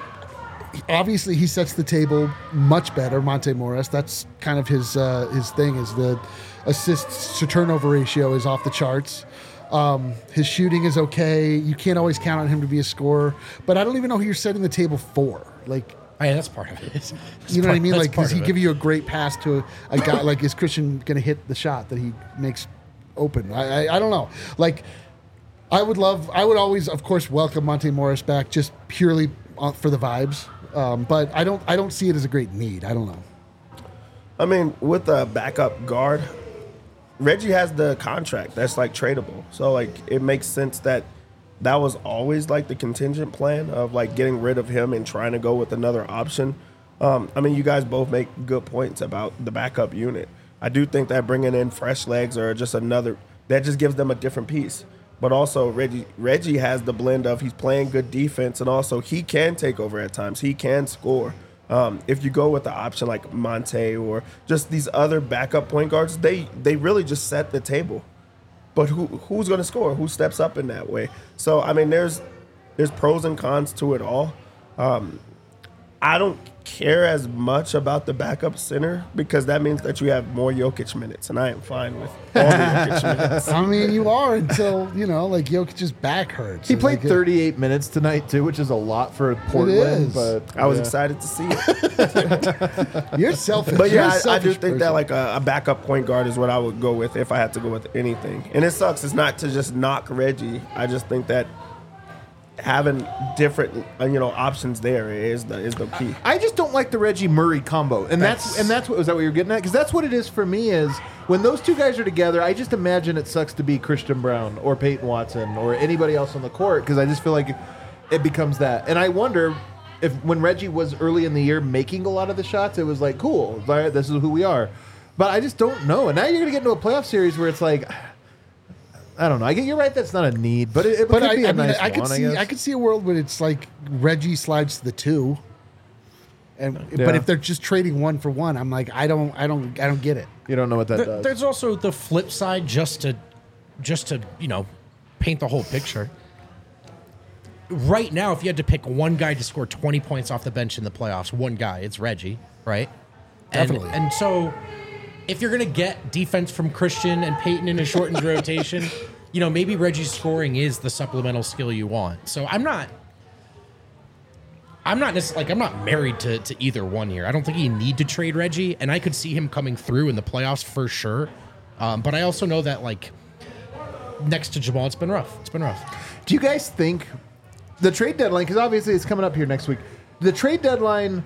he, obviously, he sets the table much better, Monte Morris. That's kind of his, uh, his thing, is the assists to turnover ratio is off the charts. Um, his shooting is okay. You can't always count on him to be a scorer, but I don't even know who you're setting the table for. Like,
oh, yeah, that's part of it. That's
you know
part,
what I mean? Like, does he
it.
give you a great pass to a, a guy? Like, is Christian going to hit the shot that he makes open? I, I I don't know. Like, I would love. I would always, of course, welcome Monte Morris back just purely for the vibes. Um, but I don't. I don't see it as a great need. I don't know.
I mean, with a backup guard, Reggie has the contract that's like tradable. So like it makes sense that that was always like the contingent plan of like getting rid of him and trying to go with another option. Um, I mean, you guys both make good points about the backup unit. I do think that bringing in fresh legs or just another, that just gives them a different piece. But also Reggie Reggie has the blend of he's playing good defense and also he can take over at times. He can score. Um, if you go with the option like Monte or just these other backup point guards, they they really just set the table. But who who's going to score? Who steps up in that way? So I mean, there's there's pros and cons to it all. Um, I don't care as much about the backup center because that means that you have more Jokic minutes, and I am fine with all the Jokic minutes.
I mean, you are until, you know, like Jokic's back hurts.
He played
like,
thirty-eight minutes tonight, too, which is a lot for Portland.
is.
But
I was
yeah.
excited to see it.
You're selfish.
But
You're
yeah,
a
I, I
selfish
do think
person.
that like a, a backup point guard is what I would go with if I had to go with anything. And it sucks. It's not to just knock Reggie. I just think that having different uh, you know options there is the is the key.
I just don't like the Reggie Murray combo, and that's,
That's-
and that's what was that what you're getting at? Because that's what it is for me. Is when those two guys are together, I just imagine it sucks to be Christian Brown or Peyton Watson or anybody else on the court because I just feel like it, it becomes that. And I wonder if when Reggie was early in the year making a lot of the shots, it was like cool, all right, this is who we are. But I just don't know. And now you're gonna get into a playoff series where it's like. I don't know. I get you're right. That's not a need, but it, it
But
could
I,
be a
I mean,
nice
I could
one,
see,
I, guess.
I could see a world where it's like Reggie slides to the two, And
Yeah.
but if they're just trading one for one, I'm like, I don't, I don't, I don't get it.
You don't know what that
There-
does.
there's also the flip side, just to, just to you know, paint the whole picture. Right now, if you had to pick one guy to score twenty points off the bench in the playoffs, one guy, it's Reggie, right? And,
Definitely.
And so, if you're gonna get defense from Christian and Peyton in a shortened rotation, you know, maybe Reggie's scoring is the supplemental skill you want. So I'm not. I'm not necessarily like I'm not married to, to either one here. I don't think you need to trade Reggie, and I could see him coming through in the playoffs for sure. Um, but I also know that like next to Jamal, it's been rough. It's been rough.
Do you guys think the trade deadline, because obviously it's coming up here next week, the trade deadline,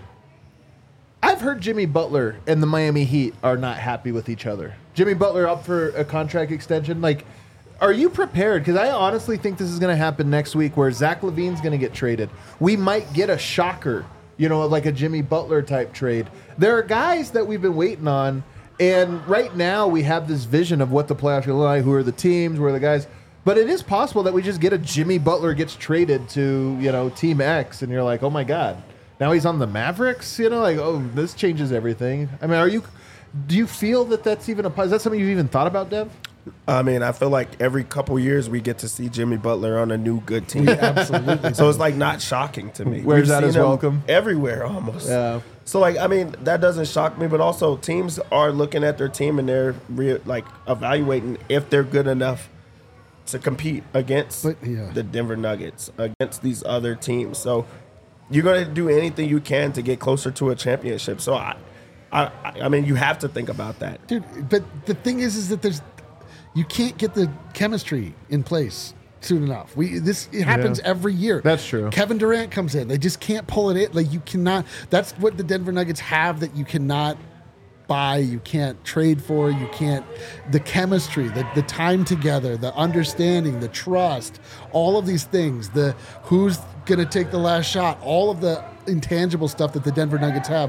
I've heard Jimmy Butler and the Miami Heat are not happy with each other. Jimmy Butler up for a contract extension. Like, are you prepared? Because I honestly think this is going to happen next week where Zach LaVine's going to get traded. We might get a shocker, you know, like a Jimmy Butler type trade. There are guys that we've been waiting on, and right now we have this vision of what the playoffs will look like, who are the teams, who are the guys. But it is possible that we just get a Jimmy Butler gets traded to, you know, Team X, and you're like, oh my God, now he's on the Mavericks? You know, like, oh, this changes everything. I mean, are you, do you feel that that's even a, is that something you've even thought about, Dev?
I mean, I feel like every couple years we get to see Jimmy Butler on a new good team.
Absolutely.
So it's like not shocking to me.
Where's
We've
that
seen
as
him
welcome?
Everywhere almost.
Yeah.
So like, I mean, that doesn't shock me, but also teams are looking at their team and they're re- like evaluating if they're good enough to compete against
But, yeah.
the Denver Nuggets, against these other teams. So you're going to do anything you can to get closer to a championship. So I, I, I mean, you have to think about that.
Dude, but the thing is, is that there's, you can't get the chemistry in place soon enough. We this it happens
Yeah.
every year.
That's true.
Kevin Durant comes in. They just can't pull it in. Like you cannot. That's what the Denver Nuggets have that you cannot buy. You can't trade for. You can't. The chemistry, the the time together, the understanding, the trust, all of these things. The who's gonna take the last shot. All of the intangible stuff that the Denver Nuggets have.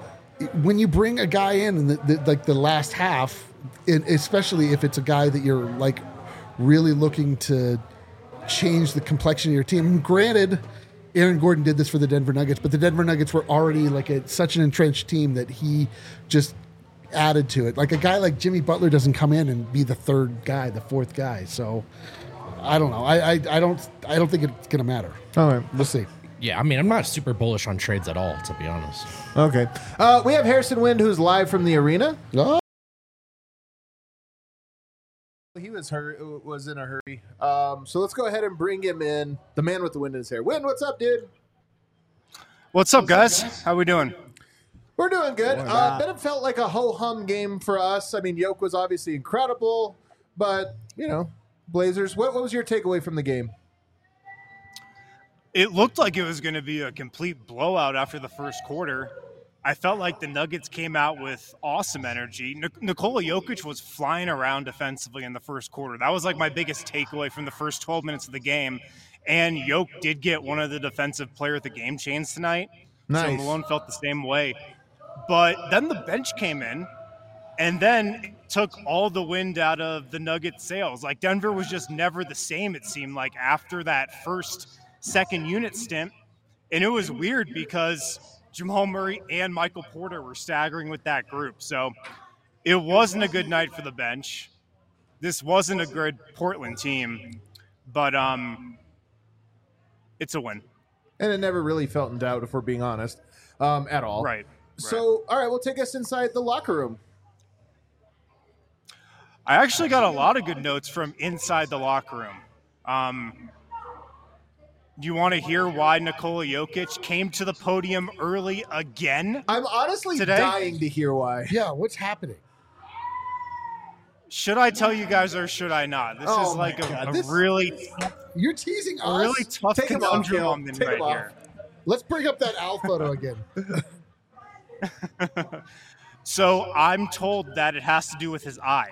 When you bring a guy in, in the, the, like the last half, and especially if it's a guy that you're like really looking to change the complexion of your team. And granted, Aaron Gordon did this for the Denver Nuggets, but the Denver Nuggets were already like a, such an entrenched team that he just added to it. Like a guy like Jimmy Butler doesn't come in and be the third guy, the fourth guy. So I don't know. I I, I don't I don't think it's gonna matter.
All right.
We'll see.
Yeah, I mean, I'm not super bullish on trades at all, to be honest.
Okay. Uh, we have Harrison Wind, who's live from the arena.
Oh,
He was hurt, was in a hurry. Um, so let's go ahead and bring him in. The man with the wind in his hair. Wind, what's up, dude?
What's up, guys? How we doing?
We're doing good. Uh, but it felt like a ho-hum game for us. I mean, Yoke was obviously incredible, but, you know, Blazers, what, what was your takeaway from the game?
It looked like it was going to be a complete blowout after the first quarter. I felt like the Nuggets came out with awesome energy. Nik- Nikola Jokic was flying around defensively in the first quarter. That was like my biggest takeaway from the first twelve minutes of the game. And Jokic did get one of the defensive player of the game chains tonight.
Nice.
So Malone felt the same way. But then the bench came in and then took all the wind out of the Nuggets' sails. Like Denver was just never the same, it seemed like, after that first second unit stint. And it was weird because Jamal Murray and Michael Porter were staggering with that group. So it wasn't a good night for the bench. This wasn't a good Portland team, but um, it's a win.
And it never really felt in doubt, if we're being honest, um, at all.
Right.
So, all right, well, take us inside the locker room.
I actually got a lot of good notes from inside the locker room. Um, do you want to hear why Nikola Jokic came to the podium early again?
I'm honestly
Today?
dying to hear why.
yeah. What's happening?
Should I tell you guys or should I not? This
Oh
is like
my
a,
God,
a
this-
really,
You're teasing
a
us.
really tough
Take him off,
conundrum
Kale.
I'm in
Take
right
him off.
here.
Let's bring up that Al photo again.
So I'm told that it has to do with his eye.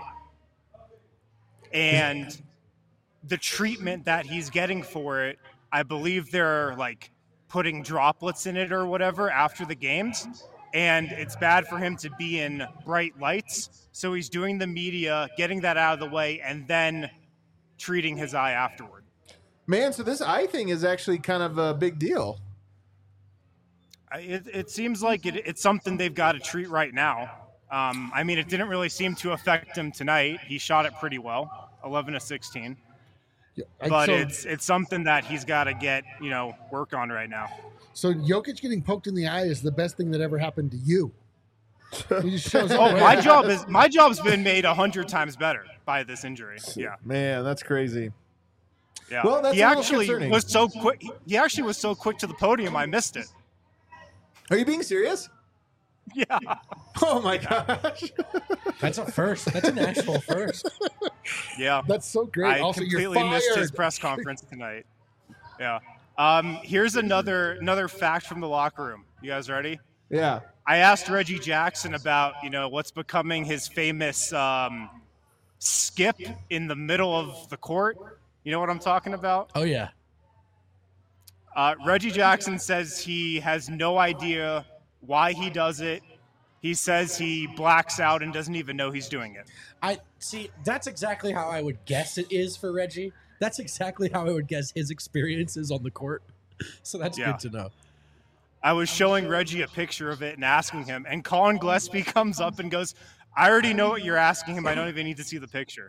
And the treatment that he's getting for it, I believe they're like putting droplets in it or whatever after the games. And it's bad for him to be in bright lights. So he's doing the media, getting that out of the way, and then treating his eye afterward.
Man, so this eye thing is actually kind of a big deal.
I- It, it seems like it, it's something they've got to treat right now. Um, I mean, it didn't really seem to affect him tonight. He shot it pretty well, eleven to sixteen.
Yeah, I-
But
so,
it's it's something that he's got to get, you know, work on right now.
so Jokic getting poked in the eye is the best thing that ever happened to you. He just shows up.
Oh,
right
my
now.
job is my job's been made a hundred times better by this injury. Yeah,
Man, that's crazy.
yeah.
Well, that's
he
a little
actually
concerning.
was so quick. He actually was so quick to the podium. I missed it.
Are you being serious?
Yeah.
Oh my gosh.
That's a first. That's an actual first.
Yeah.
That's so great.
I
also, you're
completely missed his
fired.
press conference tonight. Yeah. Um, here's another another fact from the locker room. You guys ready?
Yeah.
I asked Reggie Jackson about, you know, what's becoming his famous um, skip in the middle of the court. You know what I'm talking about?
Oh yeah.
Uh, Reggie Jackson says he has no idea why he does it. He says he blacks out and doesn't even know he's doing it.
I see. That's exactly how I would guess it is for Reggie. That's exactly how I would guess his experiences on the court. So that's
Yeah.
good to know.
I was showing Reggie a picture of it and asking him, and Colin Gillespie comes up and goes, I already know what you're asking him. I don't even need to see the picture.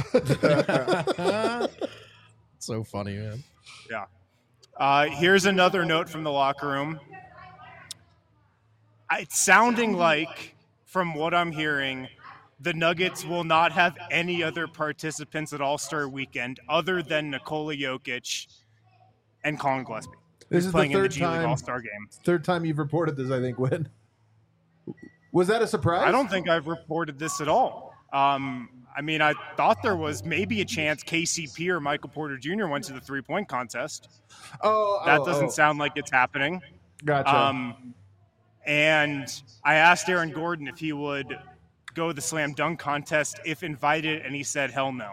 So funny, man.
Yeah. Uh, here's another note from the locker room. It's sounding like, from what I'm hearing, the Nuggets will not have any other participants at All-Star Weekend other than Nikola Jokic and Colin Gillespie.
This
who's
is
playing
the
in the
third
G League
time
All-Star game.
third time you've reported this, I think, Win. Was that a surprise?
I don't think I've reported this at all. Um, I mean, I thought there was maybe a chance K C P or Michael Porter Junior went to the three-point contest.
Oh,
That
oh,
doesn't
oh.
sound like it's happening.
Gotcha.
Um, and I asked Aaron Gordon if he would go to the slam dunk contest if invited, and he said, hell no.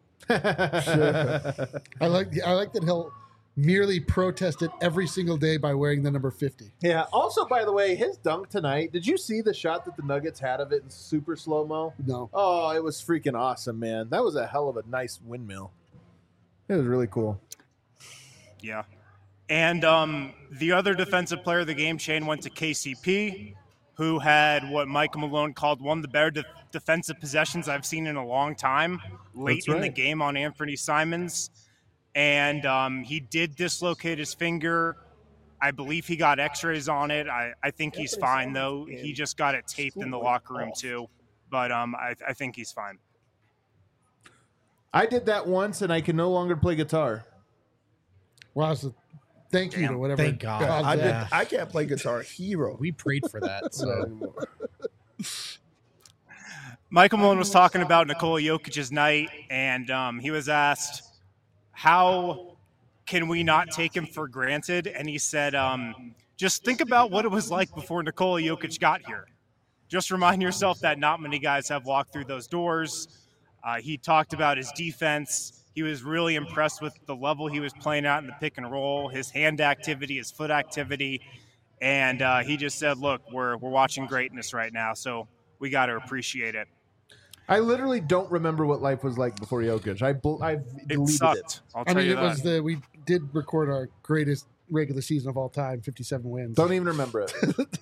I like. I like that he'll merely protest it every single day by wearing the number fifty.
Yeah. Also, by the way, his dunk tonight, did you see the shot that the Nuggets had of it in super slow-mo?
No.
Oh, it was freaking awesome, man. That was a hell of a nice windmill. It was really cool.
Yeah. And um, the other defensive player of the game, Shane, went to K C P, who had what Michael Malone called one of the better de- defensive possessions I've seen in a long time, late
That's
in the
right.
game on Anthony Simons. And um, he did dislocate his finger. I believe he got x-rays on it. I, I think he's fine, though. He just got it taped in the locker room, too. But um, I, I think he's fine.
I did that once, and I can no longer play guitar.
Wow. So thank you to
Damn.
whatever.
Thank God.
caused
I,
that.
did, I can't play Guitar Hero.
We prayed for that. So
anymore.
Michael Malone was talking about Nikola Jokic's night, and um, he was asked, how can we not take him for granted? And he said, um, just think about what it was like before Nikola Jokic got here. Just remind yourself that not many guys have walked through those doors. Uh, he talked about his defense. He was really impressed with the level he was playing at in the pick and roll, his hand activity, his foot activity. And uh, he just said, look, we're, we're watching greatness right now, so we got to appreciate it.
I literally don't remember what life was like before Jokic. I bel- I've
It
deleted
sucked.
it.
I'll
I
tell
mean,
you
it
that.
was the we did record our greatest regular season of all time, fifty-seven wins.
Don't even remember it.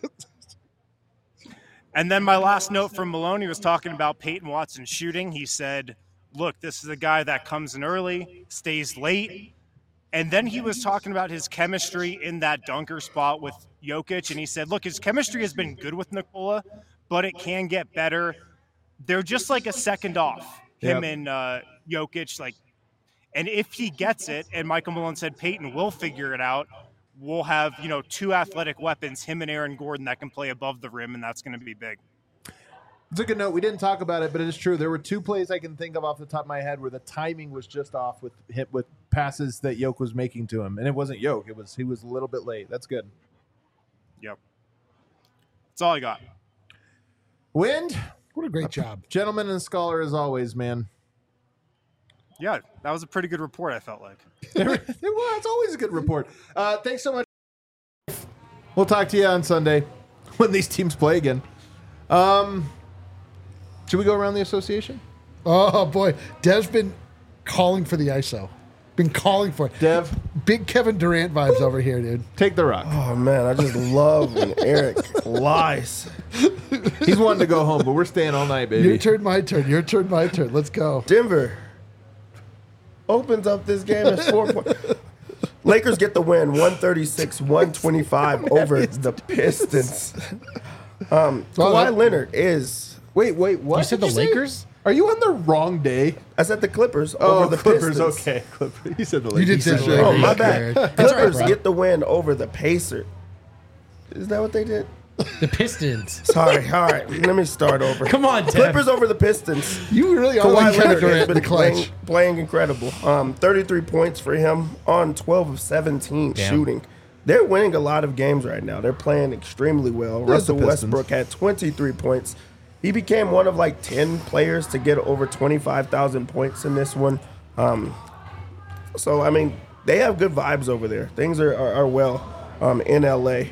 And then my last note from Maloney was talking about Peyton Watson shooting. He said, look, this is a guy that comes in early, stays late. And then he was talking about his chemistry in that dunker spot with Jokic. And he said, look, his chemistry has been good with Nikola, but it can get better. They're just like a second off, him
Yep.
and uh, Jokic. Like, and if he gets it, and Michael Malone said Peyton will figure it out, we'll have, you know, two athletic weapons, him and Aaron Gordon, that can play above the rim, and that's going to be big.
It's a good note. We didn't talk about it, but it is true. There were two plays I can think of off the top of my head where the timing was just off with hit with passes that Yoke was making to him, and it wasn't Yoke. It was he was a little bit late. That's good.
Yep. That's all I got.
Wind,
What a great job.
gentleman and scholar as always, man.
Yeah, that was a pretty good report, I felt like.
Well, it's always a good report. Uh, thanks so much. We'll talk to you on Sunday when these teams play again. Um, should we go around the association?
Oh boy, Dev's been calling for the I S O. Been calling for it.
Dev,
Big Kevin Durant vibes over here, dude.
take the rock.
Oh man, I just love when Eric lies.
He's wanting to go home, but we're staying all night, baby.
Your turn, my turn. Your turn, my turn. Let's go.
Denver opens up this game as four points. Lakers get the win, one thirty-six one twenty-five over the Pistons. Um,
Well,
Kawhi
that-
Leonard is.
Wait, wait, what?
You said
did
the
say?
Lakers?
Are you on the wrong day?
I said the Clippers
Oh,
over the
Clippers.
Pistons.
Okay, Clippers. You said the
You
Lakers.
did say
said
the
Oh,
Lakers.
my bad.
That's all right,
Clippers
bro.
get the win over the Pacers. Is that what they did?
The Pistons.
Sorry. All right. Let me start over.
Come on, Dev.
Clippers over the Pistons.
You really are
Kawhi
like Kevin
Leonard has
Durant in
been
the clutch.
playing, playing incredible. Um, thirty-three points for him on twelve of seventeen
Damn.
shooting. They're winning a lot of games right now. They're playing extremely well.
There's the
Russell
Pistons.
Westbrook had twenty-three points. He became one of like ten players to get over twenty-five thousand points in this one. Um, so, I mean, they have good vibes over there. Things are, are, are well um, in L A.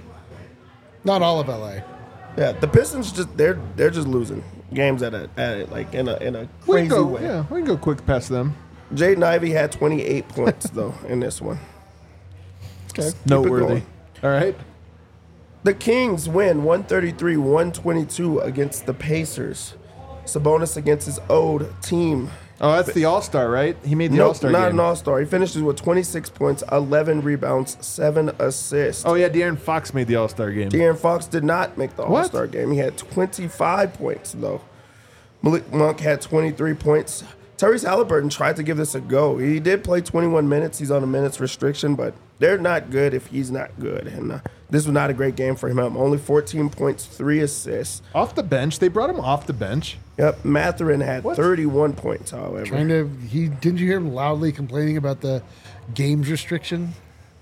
Not all of L A.
Yeah, the Pistons just they're they're just losing games at a at a, like in a in a
We
crazy
can go,
way.
yeah, we can go quick past them.
Jaden Ivey had twenty-eight points though in this one.
Okay.
Noteworthy.
going.
All right.
The Kings win one thirty-three one twenty-two against the Pacers. Sabonis against his old team.
Oh, that's the All Star, right? He made the
Nope,
All Star
not
game.
an all-star. He finishes with twenty-six points, eleven rebounds, seven assists.
Oh yeah, De'Aaron Fox made the All Star game.
De'Aaron Fox did not make the
What?
All-Star game. He had twenty-five points, though. Malik Monk had twenty-three points. Tyrese Halliburton tried to give this a go. He did play twenty-one minutes. He's on a minutes restriction, but they're not good if he's not good. And uh, this was not a great game for him. Only fourteen points, three assists.
Off the bench. They brought him off the bench.
Yep, Mathurin had
What?
thirty-one points, however.
Trying to he didn't you hear him loudly complaining about the games restriction?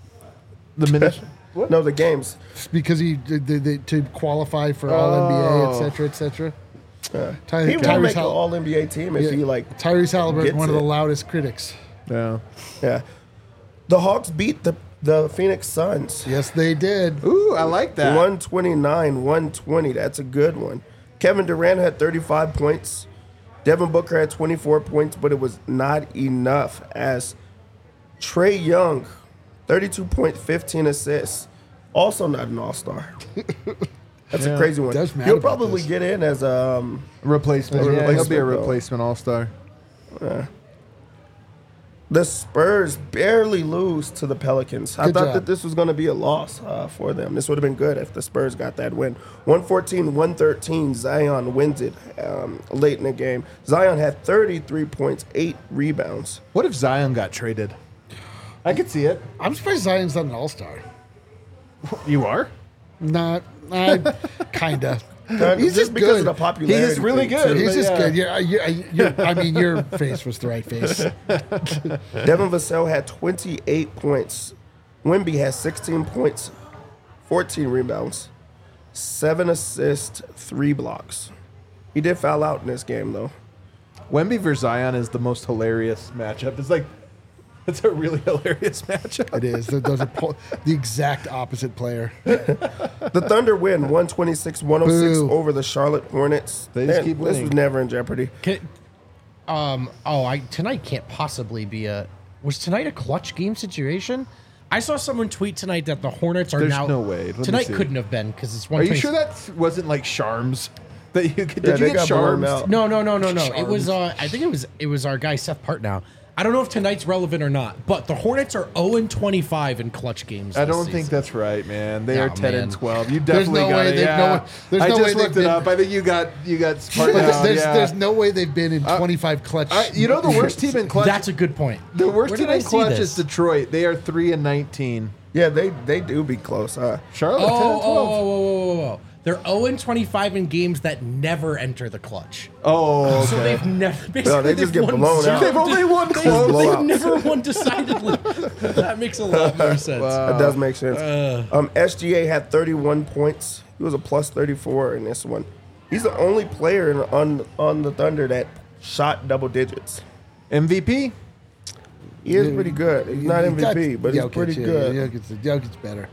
The minute. What?
No, the games.
It's because he did the, the, to qualify for All N B A,
Oh.
et cetera, et cetera.
Uh,
Ty-
he will
Tyrese
make an
Hall-
All N B A team if
Yeah,
he, like,
Tyrese Halliburton,
gets
one of the
it.
loudest critics.
Yeah.
yeah. The Hawks beat the, the Phoenix Suns.
Yes, they did.
Ooh, I like that.
one twenty-nine one twenty. That's a good one. Kevin Durant had thirty-five points. Devin Booker had twenty-four points, but it was not enough as Trey Young, thirty-two points, fifteen assists. Also not an all-star. That's
Yeah.
a crazy one.
Does mad
He'll
about
probably
this.
get in as a um,
Replacement.
A
Yeah, he'll be a
replacement, though.
replacement All Star.
the Spurs barely lose to the Pelicans. I
Good
thought
job.
that this was going to be a loss uh, for them. This would have been good if the Spurs got that win. one fourteen one thirteen, Zion wins it um, late in the game. Zion had thirty-three points, eight rebounds.
What if Zion got traded? I could see it.
I'm surprised Zion's not an all star.
You are?
Not, I, kinda.
He's
He's just
because
good.
of the popularity.
He is really
thing,
good.
too.
He's just
yeah.
good. Yeah, you, you, I mean, your face was the right face.
Devin Vassell had twenty-eight points. Wemby had sixteen points, fourteen rebounds, seven assists, three blocks. He did foul out in this game, though.
Wemby versus Zion is the most hilarious matchup. It's like, it's a really hilarious matchup.
It is. Th- Those are po- the exact opposite player.
The Thunder win one twenty-six one oh six
Boo.
over the Charlotte Hornets.
They just
Man,
keep
This
winning.
was never in jeopardy.
Can, um. Oh, I tonight can't possibly be a. Was tonight a clutch game situation? I saw someone tweet tonight that the Hornets are
There's
now.
no way. Let me
Tonight
see.
couldn't have been because it's one.
Are you sure that wasn't like Charms? That you could,
Yeah,
did you
they
get
got blown
Charms?
out.
No, no, no, no, no. It was. Uh, I think it was. It was our guy Seth Partnow. I don't know if tonight's relevant or not, but the Hornets are zero and twenty-five in clutch games.
I
this
don't think
season.
that's right, man. They
Oh,
are ten and
man.
twelve. You
There's
definitely
no
got
way
it.
they've-
Yeah.
no- there's
I
no
just
way
looked
they've
it up.
been-
I think you got you got smart
There's,
down.
there's,
yeah.
there's no way they've been in twenty-five clutch.
I- you know the worst team in clutch.
That's a good point.
the worst
Where
team
did I
in
see
clutch
this?
is Detroit. They are three and nineteen.
Yeah, they they do be close. Huh?
Charlotte
Oh,
ten and
oh,
twelve.
whoa, whoa, whoa, whoa, whoa. They're zero and twenty-five in games that never enter the clutch.
Oh,
So
okay.
they've never. Basically,
No, they just
they've
get
won
blown
zero
out.
They've only won
They-
close.
They've
Blowouts.
never won decidedly. That makes a lot more sense.
That does make sense.
Uh.
um, S G A had thirty-one points. He was a plus thirty-four in this one. He's the only player in, on on the Thunder that shot double digits.
M V P.
He is pretty good. He's not M V P,
That's
but he's
Jokic,
pretty
yeah,
good.
Jokic, Jokic's better.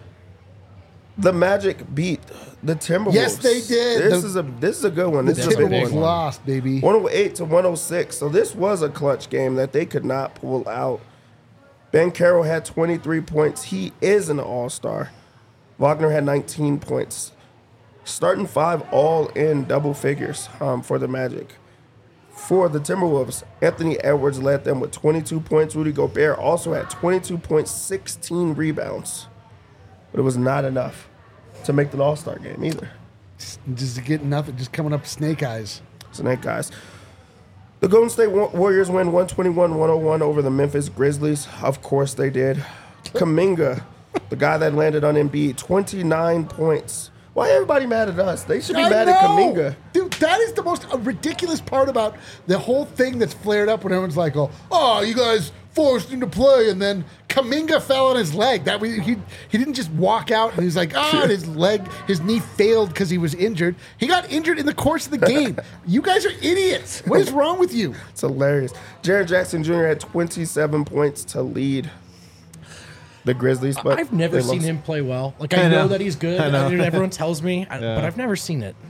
The Magic beat the Timberwolves.
Yes, they did.
This
The-
is a this is a good one.
The
This is a big
Timberwolves
one.
lost, baby.
one oh eight to one oh six. So this was a clutch game that they could not pull out. Ben Carroll had twenty-three points. He is an all-star. Wagner had nineteen points. Starting five all in double figures um, for the Magic. For the Timberwolves, Anthony Edwards led them with twenty-two points. Rudy Gobert also had twenty-two points, sixteen rebounds. But it was not enough to make the All-Star game either.
Just getting nothing, just coming up snake eyes.
Snake guys. The Golden State Warriors win one twenty-one one oh one over the Memphis Grizzlies. Of course they did. Kuminga, the guy that landed on Embiid, twenty-nine points. Why everybody mad at us? They should be
I
mad
know.
at Kuminga.
Dude, that is the most uh, ridiculous part about the whole thing that's flared up when everyone's like, oh, oh, you guys forced him to play, and then Kuminga fell on his leg. That we, he he didn't just walk out and he's like, ah, and his leg, his knee failed because he was injured. He got injured in the course of the game. You guys are idiots. What is wrong with you?
It's hilarious. Jaren Jackson Junior had twenty-seven points to lead the Grizzlies, but
I've never
they
seen
lost.
him play well. Like, I,
I
know.
know.
that he's good.
I know.
I mean, everyone tells me, I-
Yeah.
but I've never seen it.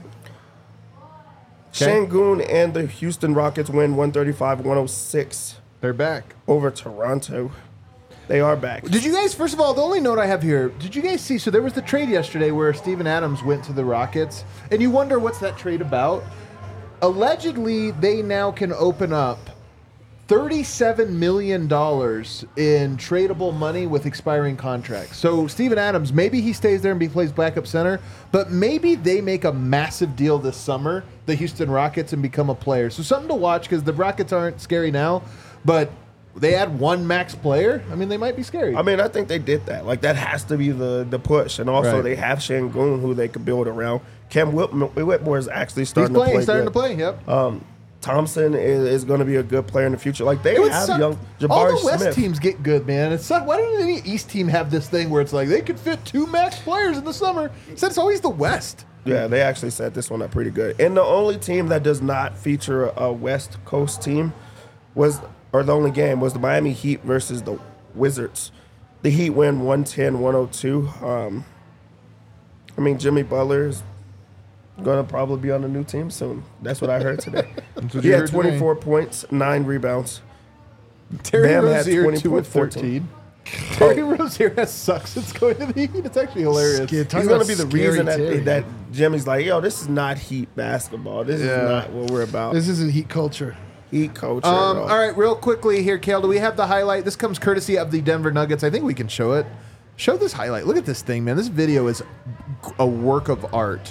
Şengün and the Houston Rockets win one thirty-five one oh six
They're back.
over Toronto. They are back.
Did you guys, first of all, the only note I have here, did you guys see, so there was the trade yesterday where Steven Adams went to the Rockets, and you wonder what's that trade about? Allegedly, they now can open up thirty-seven million dollars in tradable money with expiring contracts. So Steven Adams, maybe he stays there and he plays backup center, but maybe they make a massive deal this summer, the Houston Rockets, and become a player. So something to watch, because the Rockets aren't scary now, but they add one max player. I mean, they might be scary.
I mean, I think they did that. Like, that has to be the, the push. And also,
Right.
they have Şengün, who they could build around. Cam Whitmore, Whitmore is actually
He's
starting
playing,
to play
starting
good.
to play, yep.
Um, Thompson is, is going to be a good player in the future. Like, they
It would
have
suck.
young
All
Jabari
the West
Smith.
teams get good, man. It's suck. Why don't any East team have this thing where it's like they could fit two max players in the summer? Instead, it's always the West.
Yeah, they actually set this one up pretty good. And the only team that does not feature a West Coast team was, or the only game, was the Miami Heat versus the Wizards. The Heat win one ten one oh two. Um, I mean, Jimmy Butler is going to probably be on a new team soon. That's what I heard today.
what
He
you
had
heard today.
twenty-four points, nine rebounds.
Terry
Bam had
Rozier
twenty
two and
with fourteen.
thirteen. Terry Rozier has sucks since going to the Heat. It's actually hilarious.
Skid. Talk
He's going to
about
be the
scary
reason that,
Terry.
that Jimmy's like, yo, this is not Heat basketball. This
Yeah.
is not what we're about.
This isn't heat culture.
Heat culture.
Um,
bro.
all right, real quickly here, Kale, do we have the highlight? This comes courtesy of the Denver Nuggets. I think we can show it. Show this highlight. Look at this thing, man. This video is a work of art.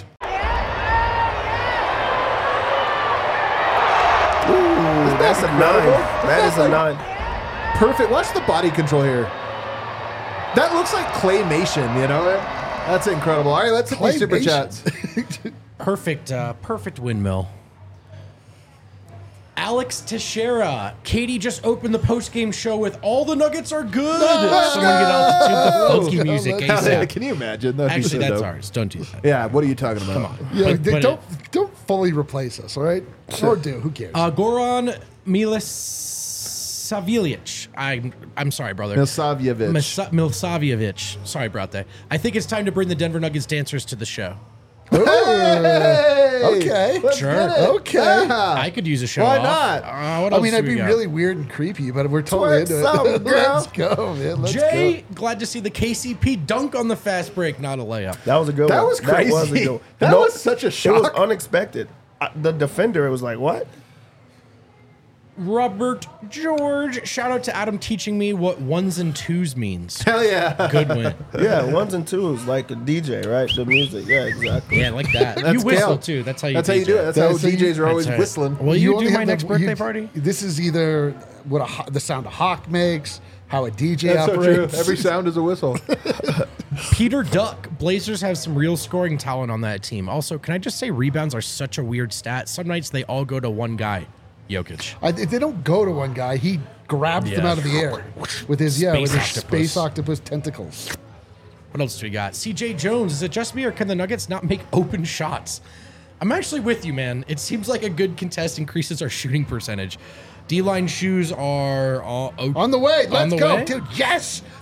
Ooh, that's a nine. That is a nine.
Perfect. Watch the body control here. That looks like claymation, you know? That's incredible. All right, let's hit these super
Claymation.
chats.
Perfect, uh, perfect windmill. Alex Teixeira. Katie just opened the post-game show with "All the Nuggets are good." Someone get altitude the funky music
Hell
ASAP.
Can you imagine? That'd be
Actually,
so
that's
dope.
ours. Don't do that.
Yeah, what are you talking about?
Come on.
Yeah,
But-
d-
but
don't
it-
don't fully replace us, all right? Or do. Who cares?
Uh, Goran Milosavljevic. I'm I'm sorry, brother.
Milosavljevic.
Misa- Milosavljevic. Sorry about that. I think it's time to bring the Denver Nuggets dancers to the show.
Hey!
Okay.
Let's
Sure.
get it.
Okay.
Yeah.
I could use a show.
Why
off.
not?
Uh, what
I
else
mean,
do
that'd
we
be
got?
really weird and creepy, but we're totally
Twerk
into
some,
it.
girl.
Let's go, man. Let's
Jay, glad to see the K C P dunk on the fast break, not a layup.
That was a good
That
one.
was crazy.
That was a good one.
That
No,
was such a
It was
shock.
unexpected. Uh, the defender, it was like, what?
Robert George, shout out to Adam teaching me what ones and twos means.
Hell yeah.
Good win.
Yeah, ones and twos, like a D J, right? The music. Yeah, exactly.
Yeah, like that.
That's
you whistle
Kale.
too. That's how you.
That's how you
D J.
do it. That's,
That's
how
how you-
D Js are always
That's right.
whistling.
Will you,
only
do my
have the-
next birthday
you-
party?
This is either what a ho- the sound a hawk makes, how a D J
That's so true.
operates.
Every sound is a whistle.
Peter Duck. Blazers have some real scoring talent on that team. Also, can I just say rebounds are such a weird stat. Some nights they all go to one guy, Jokic.
I, if they don't go to one guy, he grabs them
Yeah.
out of the air with his yeah with
Space
his
octopus.
space octopus tentacles.
What else do we got? C J Jones. Is it just me or can the Nuggets not make open shots? I'm actually with you, man. It seems like a good contest increases our shooting percentage. D-line shoes are all o-
On the way, let's
the
go,
way?
dude. Yes,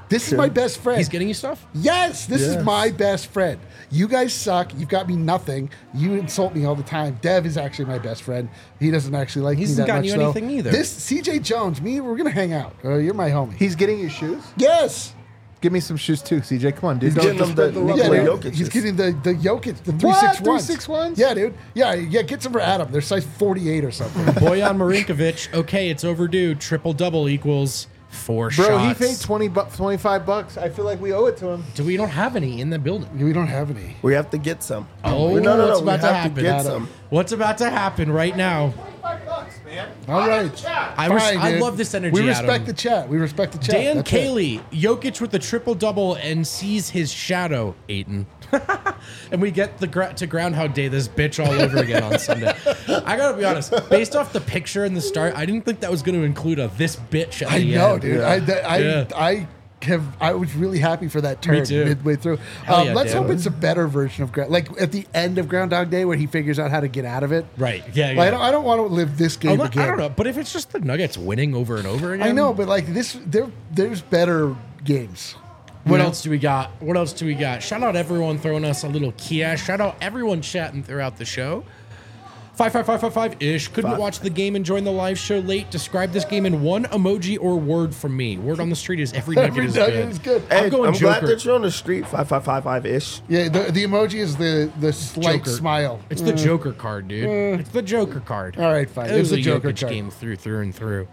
This is my best friend.
He's getting you stuff?
Yes, this
Yes.
is my best friend. You guys suck. You've got me nothing. You insult me all the time. Dev is actually my best friend. He doesn't actually like
He
me
hasn't
that
gotten
much,
you
though.
anything either.
This C J Jones, me, we're gonna hang out. Uh, you're my homie.
He's getting you shoes?
Yes.
Give me some shoes too, C J. Come on, dude.
He's
Don't
getting
just
them
spread
the
the love
Yeah,
Nikola
around.
dude.
Jokic
He's
is-
getting the the Jokic, the three
What?
six ones.
three six ones?
Yeah, dude. Yeah, yeah. Get some for Adam. They're size forty-eight or something.
Boyan Marinkovic. Okay, it's overdue. Triple double equals four
Bro,
shots.
he paid twenty bu- twenty-five bucks. I feel like we owe it to him.
Do we don't have any in the building?
we don't have any.
We have to get some.
Oh,
no, no, no.
what's
We
about to
have
happen?
to get
Adam.
some.
What's about to happen right now?
twenty-five bucks, man.
All right.
I, res-
Fine,
I
dude.
love this energy.
We respect
Adam.
the chat. We respect the chat.
Dan
That's it.
Cayley, Jokic with the triple double and sees his shadow, Aiton. And we get the gra- to Groundhog Day this bitch all over again on Sunday. I gotta be honest, based off the picture in the start, I didn't think that was going to include a this bitch at
I
the
know,
end.
dude. I, that- I,
Yeah.
I have. I was really happy for that turn
too.
midway through.
Hell
Um,
yeah,
let's
Dan.
hope it's a better version of Ground, like at the end of Groundhog Day where he figures out how to get out of it.
Right? Yeah. yeah.
Like, I don't. I don't want to live this game
I'm not-
again.
I don't know, but if it's just the Nuggets winning over and over again,
I know, but like this, there, there's better games.
What
Yeah.
else do we got? What else do we got? Shout out everyone throwing us a little Kia. Shout out everyone chatting throughout the show. Five five five five five ish. Couldn't
Five.
watch the game and join the live show late. Describe this game in one emoji or word from me. Word on the street is every nugget
Every
is
nugget
good.
is good.
I'm
Hey,
going
I'm glad
Joker.
that you're on the street. Five five five five ish.
Yeah, the, the emoji is the the slight
Joker.
smile.
It's the Joker card, dude. It's the Joker card.
All right, fine.
It was
It's
a
a Joker
Jokic
card.
game through through and through.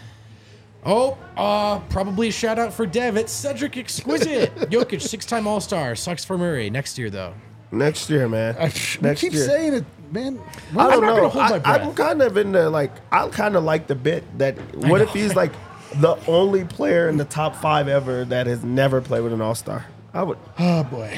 Oh, uh, probably a shout out for Dev. It's Cedric Exquisite. Jokic, six-time All-Star. Sucks for Murray. Next year, though.
Next year, man.
I, we
Next
keep
year.
saying it, man.
I don't
I'm not
know.
gonna hold my
I,
breath.
I'm kind of in the like. I kind of like the bit that. What if he's like the only player in the top five ever that has never played with an All Star? I would.
Oh boy.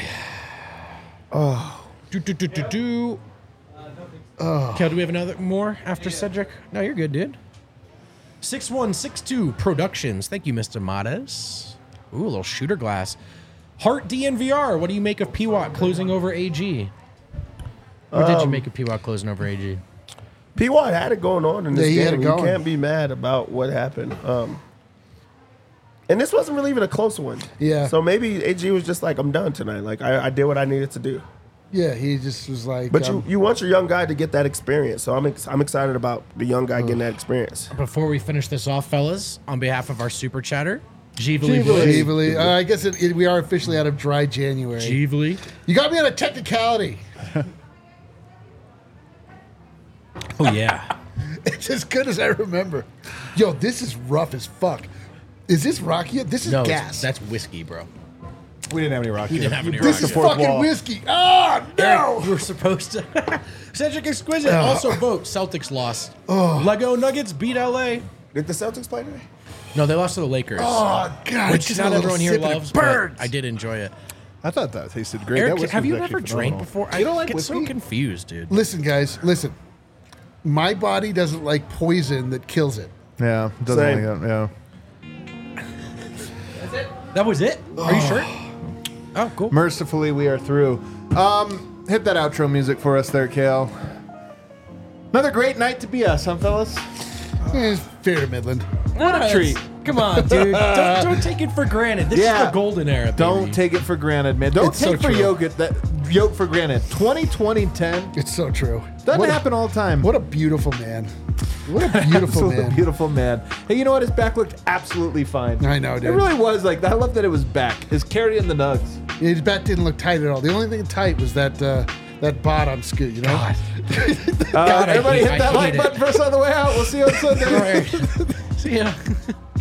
Do, do, do, do, do. Kel, do we have another more after Cedric? No, you're good, dude. six one six two Productions. Thank you, Mister Matas. Ooh, a little shooter glass. Heart D N V R. What do you make of P W A T closing over A G? What did you make of P W A T closing over A G?
P. Watt had it going on in this
Yeah, he had
game.
it
You
going.
can't be mad about what happened. Um, and this wasn't really even a close one.
Yeah.
So maybe A G was just like, I'm done tonight. Like I, I did what I needed to do.
Yeah, he just was like.
But
um,
you, you want your young guy to get that experience. So I'm ex- I'm excited about the young guy getting that experience.
Before we finish this off, fellas, on behalf of our super chatter, Jeevely
Jeevely.
boys.
Jeevely. Uh, I guess it, it, we are officially out of dry January.
Jeevely.
You got me on a technicality.
Oh, yeah.
It's as good as I remember. Yo, this is rough as fuck. Is this Rocky? This is
No, it's-
gas.
that's whiskey, bro.
We didn't have any rock.
We didn't have any
this
rock.
is
fourth
fucking
wall.
whiskey. Oh, no.
We were supposed to. Cedric Exquisite. Also vote. Celtics lost. Lego Nuggets beat L A.
Did the Celtics play today?
No, they lost to the Lakers.
Oh, God.
which
just
not
a little
everyone here
sip and it
loves, but
burns.
I did enjoy it.
I thought that tasted great.
Eric,
that whiskey
have
was
you
actually
ever drank
phenomenal.
before?
You don't
I
like
get so
whiskey?
confused, dude.
Listen, guys, listen. My body doesn't like poison that kills it.
Yeah, doesn't
Same.
like that. Yeah.
That was it? Are you sure? Oh, cool.
Mercifully, we are through. Um, hit that outro music for us there, Kale. Another great night to be us, huh, fellas?
Eh, fair Midland.
What
a treat.
Come on, dude. don't, don't take it for granted. This
Yeah.
is the golden era. Baby.
Don't take it for granted, man. Don't
It's so
take for
true.
Jokic that yoke for granted. twenty twenty ten
It's so true.
doesn't
what
happen
A,
all the time.
what a beautiful man. What a beautiful
Absolute
man.
beautiful man. Hey, you know what? His back looked absolutely fine.
I know, dude.
It really was. Like I love that it was back. His carrying the nugs.
His back didn't look tight at all. The only thing tight was that uh, that bot on Scoot, you know?
Uh,
God, I
everybody
hate-
hit that
I hate
like
it.
button for us on the way out. We'll see you on Sunday.
All right. See ya.